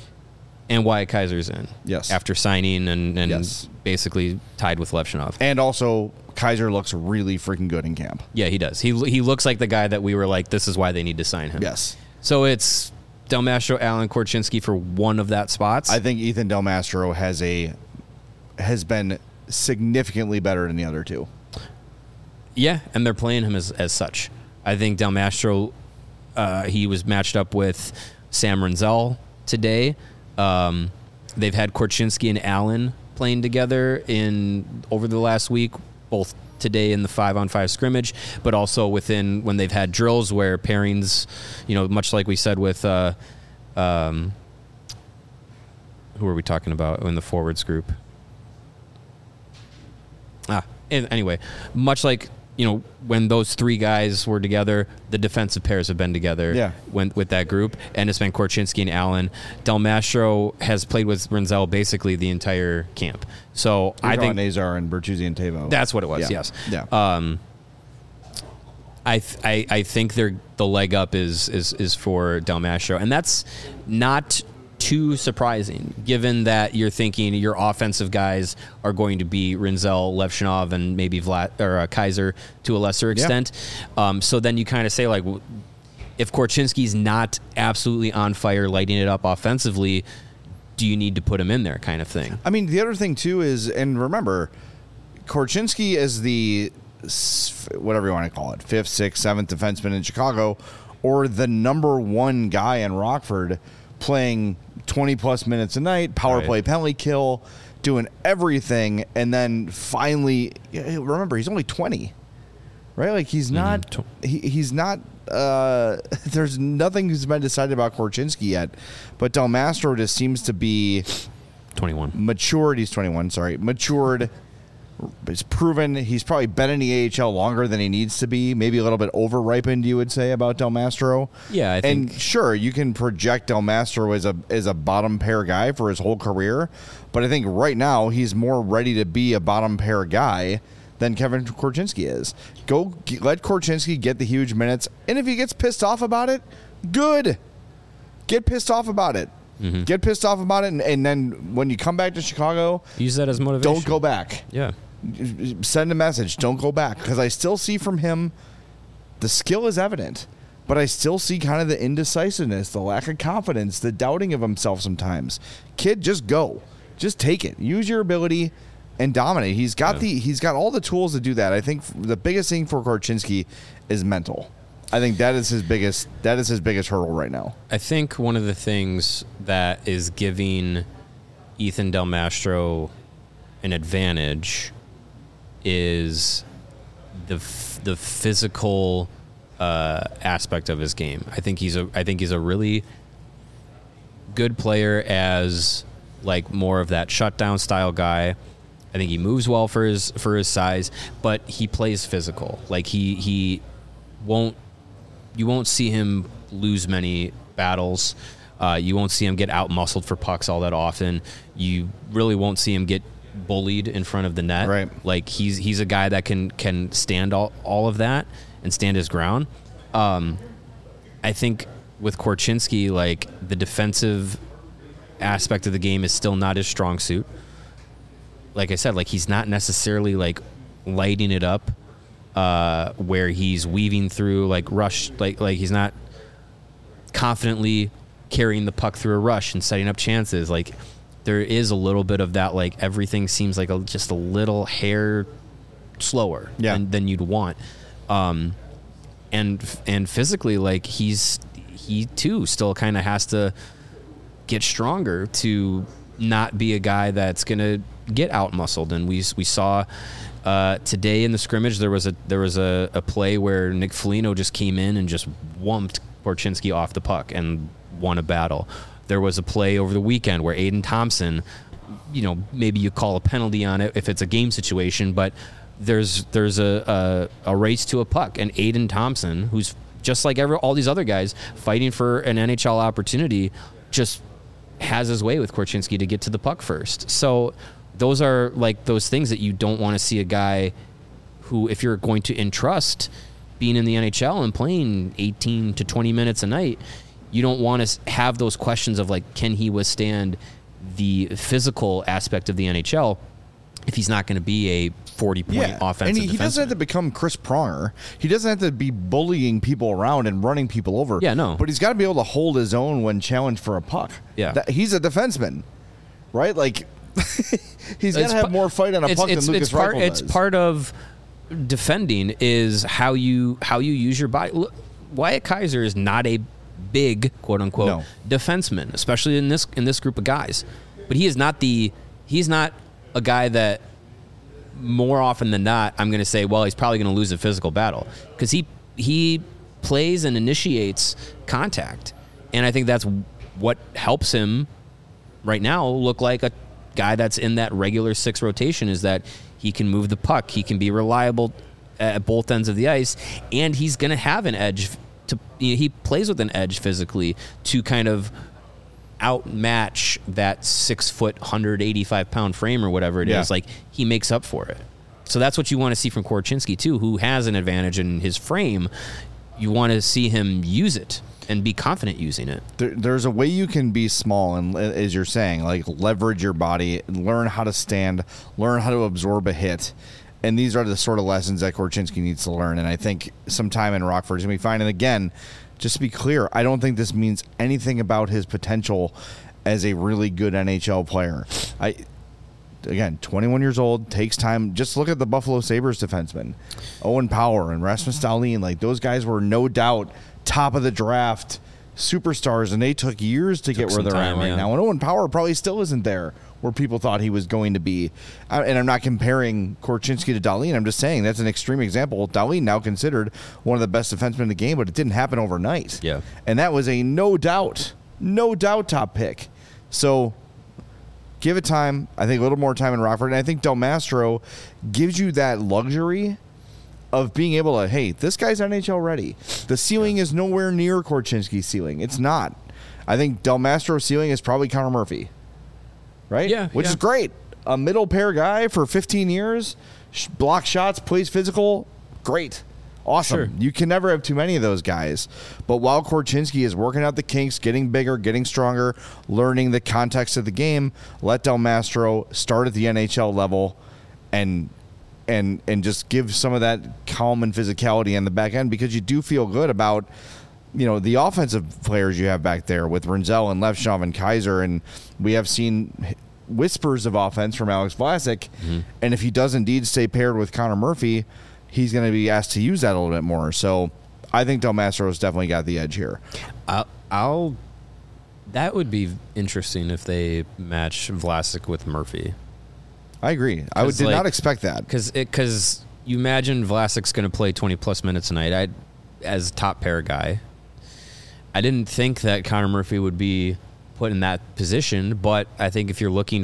And Wyatt Kaiser's in. Yes. After signing and Yes. basically tied with Levshinov. And also, Kaiser looks really freaking good in camp. Yeah, he does. He looks like the guy that we were like, this is why they need to sign him. Yes. So it's Del Mastro, Allen, Korchinski for one of that spots. I think Ethan Del Mastro has been significantly better than the other two. Yeah, and they're playing him as such. I think Del Mastro, he was matched up with Sam Renzel today. They've had Korchinski and Allen playing together over the last week, both today in the 5-on-5 scrimmage, but also when they've had drills where pairings, much like we said with who are we talking about in the forwards group? Anyway, much like when those three guys were together, the defensive pairs have been together with that group, and it's been Korchinski and Allen. Del Mastro has played with Renzel basically the entire camp. So I think Nazar and Bertuzzi and Tavo. That's what it was. Yes. Yeah. I think the leg up is for Del Mastro, and that's not too surprising, given that you're thinking your offensive guys are going to be Renzel, Levshinov, and maybe Kaiser to a lesser extent. So then you kind of say, like, if Korchinski's not absolutely on fire, lighting it up offensively, do you need to put him in there, kind of thing? I mean, the other thing too is, and remember, Korchinski is the whatever you want to call it, 5th, 6th, 7th defenseman in Chicago, or the number one guy in Rockford, playing 20-plus minutes a night, power play, penalty kill, doing everything, and then finally, remember, he's only 20, right? Like, he's not, he's not, there's nothing that's been decided about Korchinski yet, but Del Mastro just seems to be 21. Matured, he's 21, sorry, matured. It's proven he's probably been in the AHL longer than he needs to be. Maybe a little bit over-ripened, you would say, about Del Mastro. Yeah, I think. And sure, you can project Del Mastro as a bottom pair guy for his whole career, but I think right now he's more ready to be a bottom pair guy than Kevin Korchinski is. Let Korchinski get the huge minutes, and if he gets pissed off about it, good. Get pissed off about it. Mm-hmm. Get pissed off about it, and then when you come back to Chicago, use that as motivation. Don't go back. Yeah. Send a message. Don't go back, because I still see from him the skill is evident, but I still see kind of the indecisiveness, the lack of confidence, the doubting of himself sometimes. Kid, just go. Just take it. Use your ability and dominate. He's got all the tools to do that. I think the biggest thing for Korchinski is mental. I think that is his biggest hurdle right now. I think one of the things that is giving Ethan Del Mastro an advantage is the physical aspect of his game. I think he's a really good player as like more of that shutdown style guy. I think he moves well for his size, but he plays physical. Like you won't see him lose many battles. You won't see him get out-muscled for pucks all that often. You really won't see him get bullied in front of the net. Right. Like he's a guy that can stand all of that and stand his ground. I think with Korchinski, like the defensive aspect of the game is still not his strong suit. Like I said, like he's not necessarily like lighting it up where he's weaving through like rush, like he's not confidently carrying the puck through a rush and setting up chances. Like there is a little bit of that, like everything seems like just a little hair slower than you'd want. And physically, like he too still kind of has to get stronger to not be a guy that's gonna get out muscled. And we saw today in the scrimmage there was a play where Nick Foligno just came in and just wumped Korchinski off the puck and won a battle. There was a play over the weekend where Aiden Thompson, maybe you call a penalty on it if it's a game situation, but there's a race to a puck, and Aiden Thompson, who's just like all these other guys fighting for an NHL opportunity, just has his way with Korchinski to get to the puck first. So those are like those things that you don't want to see a guy who, if you're going to entrust being in the NHL and playing 18 to 20 minutes a night, you don't want to have those questions of like, can he withstand the physical aspect of the NHL if he's not going to be a 40-point offensive and he doesn't have to become Chris Pronger. He doesn't have to be bullying people around and running people over. Yeah, no. But he's got to be able to hold his own when challenged for a puck. Yeah. He's a defenseman, right? Like, he's got to have more fight on a puck than Lucas Reichel does. It's part of defending is how you use your body. Look, Wyatt Kaiser is not a big, quote unquote, defenseman, especially in this group of guys. But he's not a guy that more often than not I'm going to say, well, he's probably going to lose a physical battle, because he plays and initiates contact, and I think that's what helps him right now look like a guy that's in that regular 6 rotation, is that he can move the puck, he can be reliable at both ends of the ice, and he's going to have an edge. He plays with an edge physically to kind of outmatch that 6 foot, 185-pound frame or whatever it is. Like, he makes up for it. So that's what you want to see from Korchinski too, who has an advantage in his frame. You want to see him use it and be confident using it. There's a way you can be small, and as you're saying, like leverage your body, learn how to stand, learn how to absorb a hit. And these are the sort of lessons that Korchinski needs to learn. And I think sometime in Rockford is going to be fine. And again, just to be clear, I don't think this means anything about his potential as a really good NHL player. Again, 21 years old, takes time. Just look at the Buffalo Sabres defensemen, Owen Power and Rasmus Dahlin. Like, those guys were no doubt top of the draft superstars, and they took years to get where they're at right now. And Owen Power probably still isn't there where people thought he was going to be. And I'm not comparing Korchinski to Dahlin. I'm just saying that's an extreme example. Dahlin now considered one of the best defensemen in the game, but it didn't happen overnight. Yeah. And that was a no doubt top pick. So give it time. I think a little more time in Rockford. And I think Del Mastro gives you that luxury of being able to, hey, this guy's NHL ready. The ceiling is nowhere near Korchinski's ceiling. It's not. I think Del Mastro's ceiling is probably Connor Murphy. Right? Yeah. Which is great. A middle pair guy for 15 years, block shots, plays physical. Great. Awesome. Sure. You can never have too many of those guys. But while Korchinski is working out the kinks, getting bigger, getting stronger, learning the context of the game, let Del Mastro start at the NHL level and just give some of that calm and physicality on the back end, because you do feel good about, the offensive players you have back there with Renzel and Levshov and Kaiser. And we have seen whispers of offense from Alex Vlasic. And if he does indeed stay paired with Connor Murphy, he's going to be asked to use that a little bit more. So I think Del Mastro's definitely got the edge here. That would be interesting if they match Vlasic with Murphy. I agree. I did not expect that. Because you imagine Vlasic's going to play 20-plus minutes tonight. As top pair guy, I didn't think that Connor Murphy would be put in that position, but I think if you're looking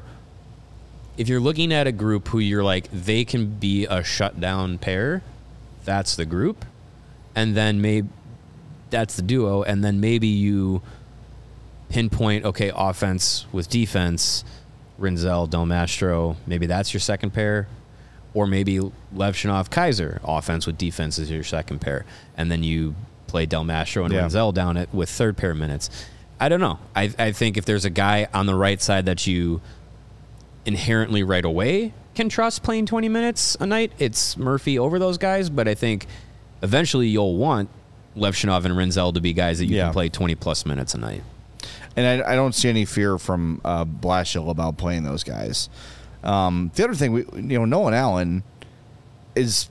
at a group who you're like, they can be a shutdown pair, that's the group. And then maybe that's the duo. And then maybe you pinpoint, okay, offense with defense, Rinzel, Del Mastro, maybe that's your second pair. Or maybe Levshinov, Kaiser, offense with defense is your second pair. And then you play Del Mastro and Rinzel down with third pair minutes. I don't know. I think if there's a guy on the right side that you inherently right away can trust playing 20 minutes a night, it's Murphy over those guys. But I think eventually you'll want Levshinov and Rinzel to be guys that you can play 20-plus minutes a night. And I don't see any fear from Blashill about playing those guys. The other thing, Nolan Allen is,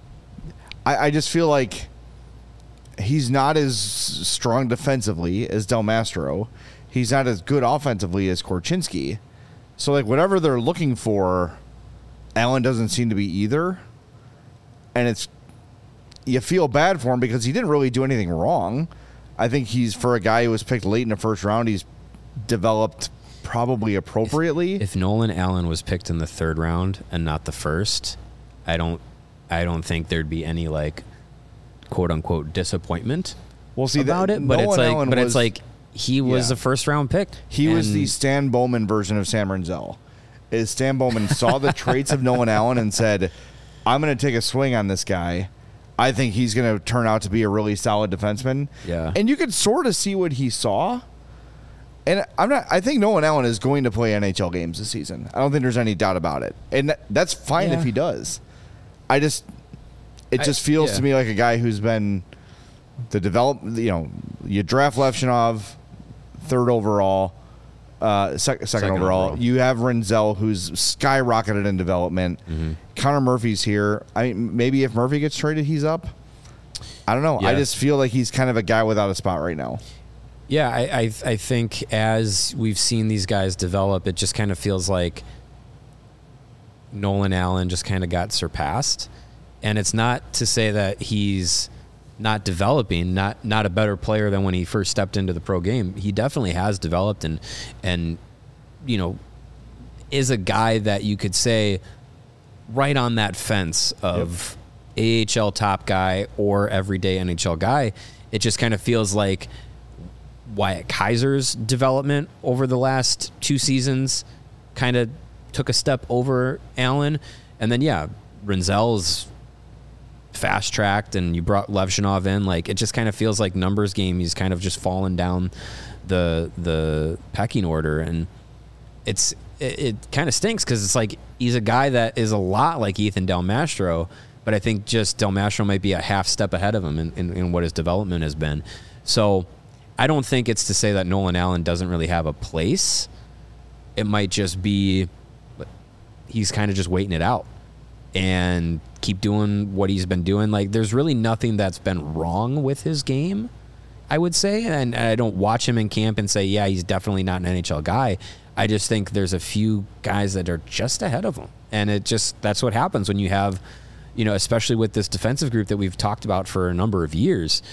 I just feel like he's not as strong defensively as Del Mastro. He's not as good offensively as Korchinski. So, like, whatever they're looking for, Allen doesn't seem to be either. And you feel bad for him because he didn't really do anything wrong. I think for a guy who was picked late in the first round, he's developed probably appropriately. If Nolan Allen was picked in the third round and not the first, I don't think there'd be any like quote unquote disappointment about it. But it's like he was a first round pick. He was the Stan Bowman version of Sam Rinzel. Stan Bowman saw the traits of Nolan Allen and said, I'm going to take a swing on this guy. I think he's going to turn out to be a really solid defenseman. Yeah. And you could sort of see what he saw. And I think Nolan Allen is going to play NHL games this season. I don't think there's any doubt about it. And that's fine if he does. It just feels to me like a guy who's been you draft Levshinov third overall, second overall. You have Rinzel, who's skyrocketed in development. Mm-hmm. Connor Murphy's here. I mean, maybe if Murphy gets traded, he's up. I don't know. Yeah. I just feel like he's kind of a guy without a spot right now. Yeah, I think as we've seen these guys develop, it just kind of feels like Nolan Allen just kind of got surpassed. And it's not to say that he's not developing, not a better player than when he first stepped into the pro game. He definitely has developed and is a guy that you could say right on that fence of AHL top guy or everyday NHL guy. It just kind of feels like Wyatt Kaiser's development over the last two seasons kind of took a step over Allen. And then, Rinzel's fast-tracked, and you brought Levshinov in. Like, it just kind of feels like numbers game. He's kind of just fallen down the pecking order. And it kind of stinks because it's like he's a guy that is a lot like Ethan Del Mastro, but I think just Del Mastro might be a half step ahead of him in what his development has been. So I don't think it's to say that Nolan Allen doesn't really have a place. It might just be he's kind of just waiting it out and keep doing what he's been doing. Like, there's really nothing that's been wrong with his game, I would say. And I don't watch him in camp and say, yeah, he's definitely not an NHL guy. I just think there's a few guys that are just ahead of him. And that's what happens when you have, especially with this defensive group that we've talked about for a number of years.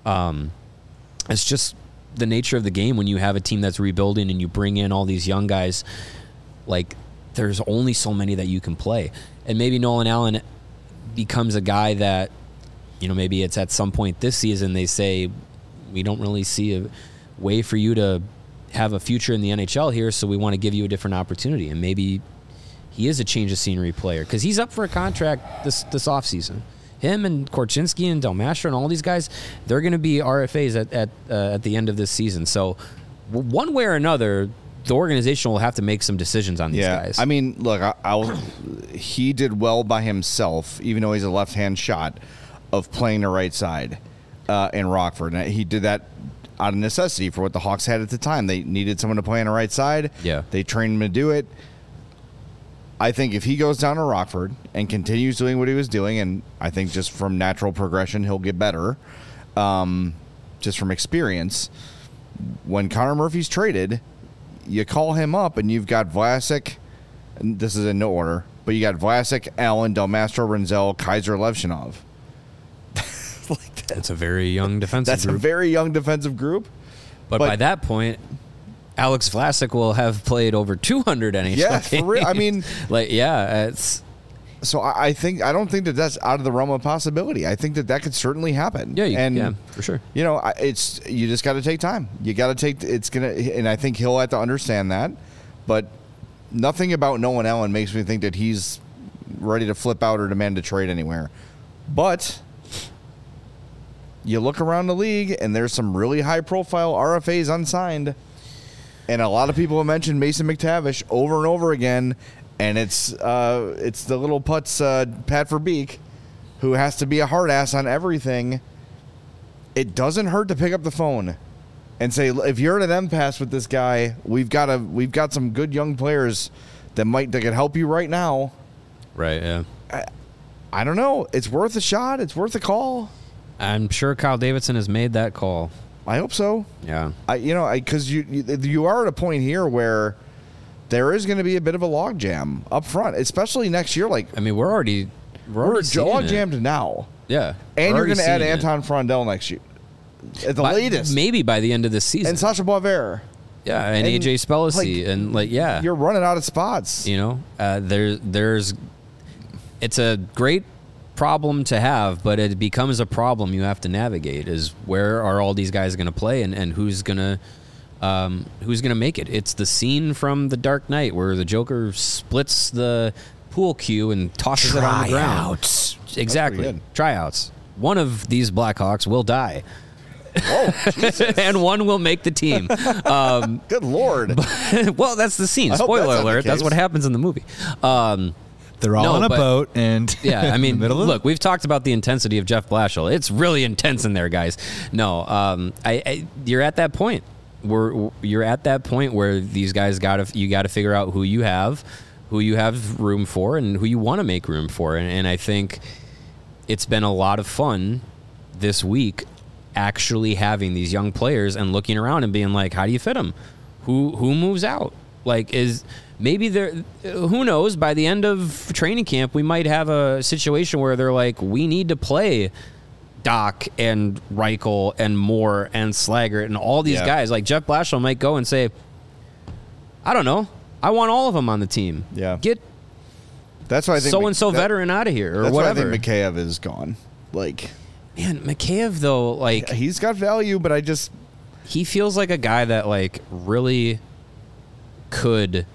It's just the nature of the game when you have a team that's rebuilding and you bring in all these young guys. Like, there's only so many that you can play. And maybe Nolan Allen becomes a guy that, maybe it's at some point this season they say, we don't really see a way for you to have a future in the NHL here, so we want to give you a different opportunity. And maybe he is a change of scenery player because he's up for a contract this offseason. Him and Korchinski and Del Mastro and all these guys, they're going to be RFAs at the end of this season. So one way or another, the organization will have to make some decisions on these guys. I mean, look, he did well by himself, even though he's a left-hand shot, of playing the right side in Rockford. And he did that out of necessity for what the Hawks had at the time. They needed someone to play on the right side. Yeah. They trained him to do it. I think if he goes down to Rockford and continues doing what he was doing, and I think just from natural progression he'll get better, just from experience, when Connor Murphy's traded, you call him up and you've got Vlasic, and this is in no order, but you got Vlasic, Allen, Del Mastro, Renzel, Kaiser, Levshinov. That's a very young defensive That's group. a very young defensive group. But by that point, Alex Vlasic will have played over 200 NHL Yeah, games. for real. I mean, it's so I don't think that that's out of the realm of possibility. I think that could certainly happen. yeah, for sure. You know, you just got to take time. You got to take and I think he'll have to understand that. But nothing about Nolan Allen makes me think that he's ready to flip out or demand a trade anywhere. But you look around the league, and there's some really high-profile RFAs unsigned, and a lot of people have mentioned Mason McTavish over and over again, and it's the little putz Pat Verbeek, who has to be a hard ass on everything. It doesn't hurt to pick up the phone and say, if you're at an impasse with this guy, we've got some good young players that can help you right now. Right, yeah. I don't know. It's worth a shot. It's worth a call. I'm sure Kyle Davidson has made that call. I hope so. Yeah. Because you are at a point here where there is going to be a bit of a logjam up front, especially next year. Like, I mean, we're already log jammed now. Yeah. And you're going to add Anton Frondell next year. At the latest. Maybe by the end of this season. And Sasha Boisvert. Yeah, and AJ Spellacy. You're running out of spots. It's a great problem to have, but it becomes a problem you have to navigate, is where are all these guys going to play and who's going to make it. It's the scene from The Dark Knight where the Joker splits the pool cue and tosses it on the ground. Exactly. Tryouts. One of these Blackhawks will die. Whoa, Jesus. And one will make the team. Good Lord. Well, that's the scene. Spoiler alert. That's what happens in the movie. They're all on a boat, and yeah, I mean, look, we've talked about the intensity of Jeff Blashill. It's really intense in there, guys. No, you're at that point. You're at that point where these guys you got to figure out who you have room for, and who you want to make room for. And I think it's been a lot of fun this week, actually having these young players and looking around and being like, how do you fit them? Who moves out? Like, maybe who knows, by the end of training camp, we might have a situation where they're like, we need to play Doc and Reichel and Moore and Slaggert and all these guys. Like, Jeff Blashill might go and say, I don't know, I want all of them on the team. Yeah. Get that's why I think so-and-so veteran out of here, or that's whatever. Why I think Mikheyev is gone. Like, man, Mikheyev, though, like, he's got value, but he feels like a guy that, like, really could,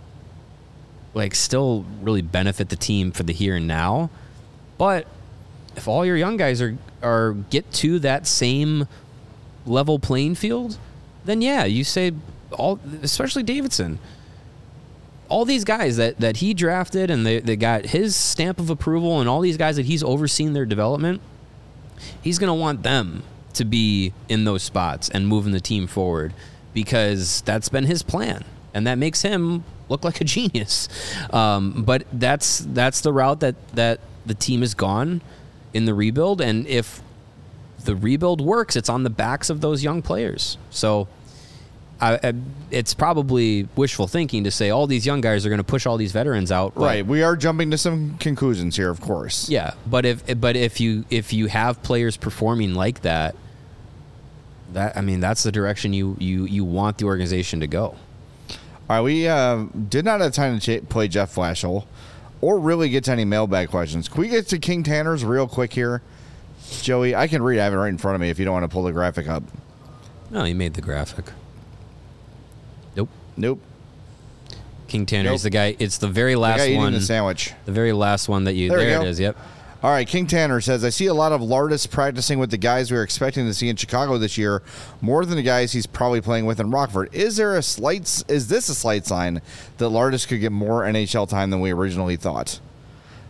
like, still really benefit the team for the here and now. But if all your young guys are get to that same level playing field, then yeah, you say especially Davidson, all these guys that he drafted and they got his stamp of approval, and all these guys that he's overseen their development, he's going to want them to be in those spots and moving the team forward, because that's been his plan. And that makes him look like a genius. But that's the route that the team has gone in the rebuild. And if the rebuild works, it's on the backs of those young players. So it's probably wishful thinking to say all these young guys are going to push all these veterans out. Right. We are jumping to some conclusions here, of course. Yeah. But if you have players performing like that, that's the direction you want the organization to go. All right, we did not have time to play Jeff Blashill or really get to any mailbag questions. Can we get to King Tanner's real quick here? Joey, I can read. I have it right in front of me if you don't want to pull the graphic up. No, he made the graphic. Nope. King Tanner is the guy. It's the very last the guy one. Eating the sandwich. The very last one that you... There it is, yep. All right, King Tanner says, I see a lot of Lardis practicing with the guys we were expecting to see in Chicago this year, more than the guys he's probably playing with in Rockford. Is this a slight sign that Lardis could get more NHL time than we originally thought?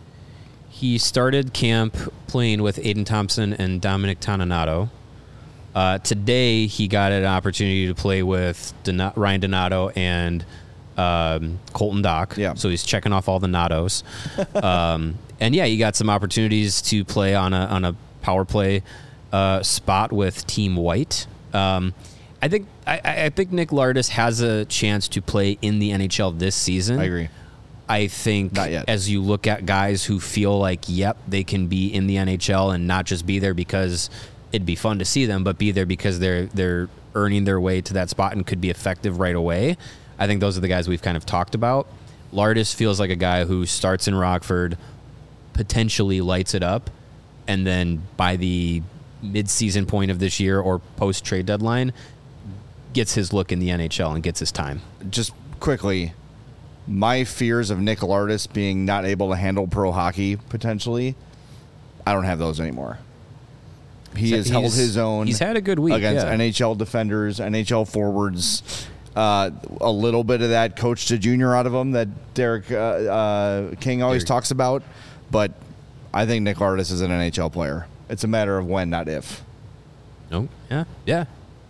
He started camp playing with Aiden Thompson and Dominic Toninato. Today, he got an opportunity to play with Ryan Donato and Colton Dock. Yeah. So he's checking off all the Natos. And yeah, he got some opportunities to play on a power play spot with Team White. I think Nick Lardis has a chance to play in the NHL this season. I agree. I think Not yet. As you look at guys who feel like, yep, they can be in the NHL and not just be there because it'd be fun to see them, but be there because they're earning their way to that spot and could be effective right away. I think those are the guys we've kind of talked about. Lardis feels like a guy who starts in Rockford, potentially lights it up, and then by the mid-season point of this year or post-trade deadline, gets his look in the NHL and gets his time. Just quickly, my fears of Nick Lardis being not able to handle pro hockey potentially, I don't have those anymore. He has held his own. He's had a good week against yeah. NHL defenders, NHL forwards. A little bit of that coached a junior out of him that Derek King always talks about. But I think Nick Lardis is an NHL player. It's a matter of when, not if. No, yeah.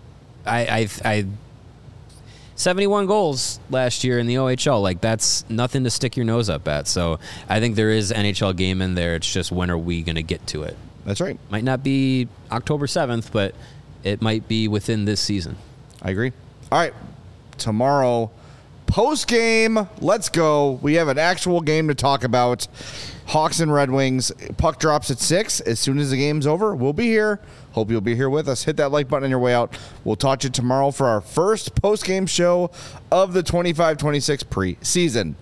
I 71 goals last year in the OHL. Like, that's nothing to stick your nose up at. So I think there is NHL game in there. It's just when are we going to get to it? That's right. Might not be October 7th, but it might be within this season. I agree. All right. Tomorrow, post game, let's go. We have an actual game to talk about. Hawks and Red Wings. Puck drops at 6. As soon as the game's over, we'll be here. Hope you'll be here with us. Hit that like button on your way out. We'll talk to you tomorrow for our first post game show of the 25-26 preseason.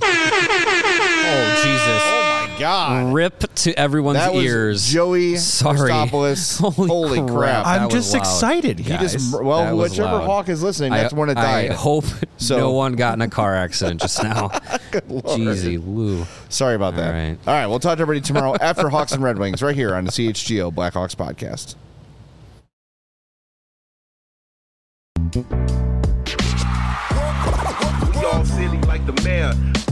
Oh, Jesus. Oh, my God. Rip to everyone's That was ears. Joey Sorry. Christopoulos. Holy crap. I'm That just was loud. excited, He guys. just, That well, was whichever loud. Hawk is listening, that's when it died. I hope So- no one got in a car accident just now. Lord. Jeezy Lou. Sorry about that. right. All right, we'll talk to everybody tomorrow after Hawks and Red Wings right here on the CHGO Blackhawks podcast. We all silly like the mayor.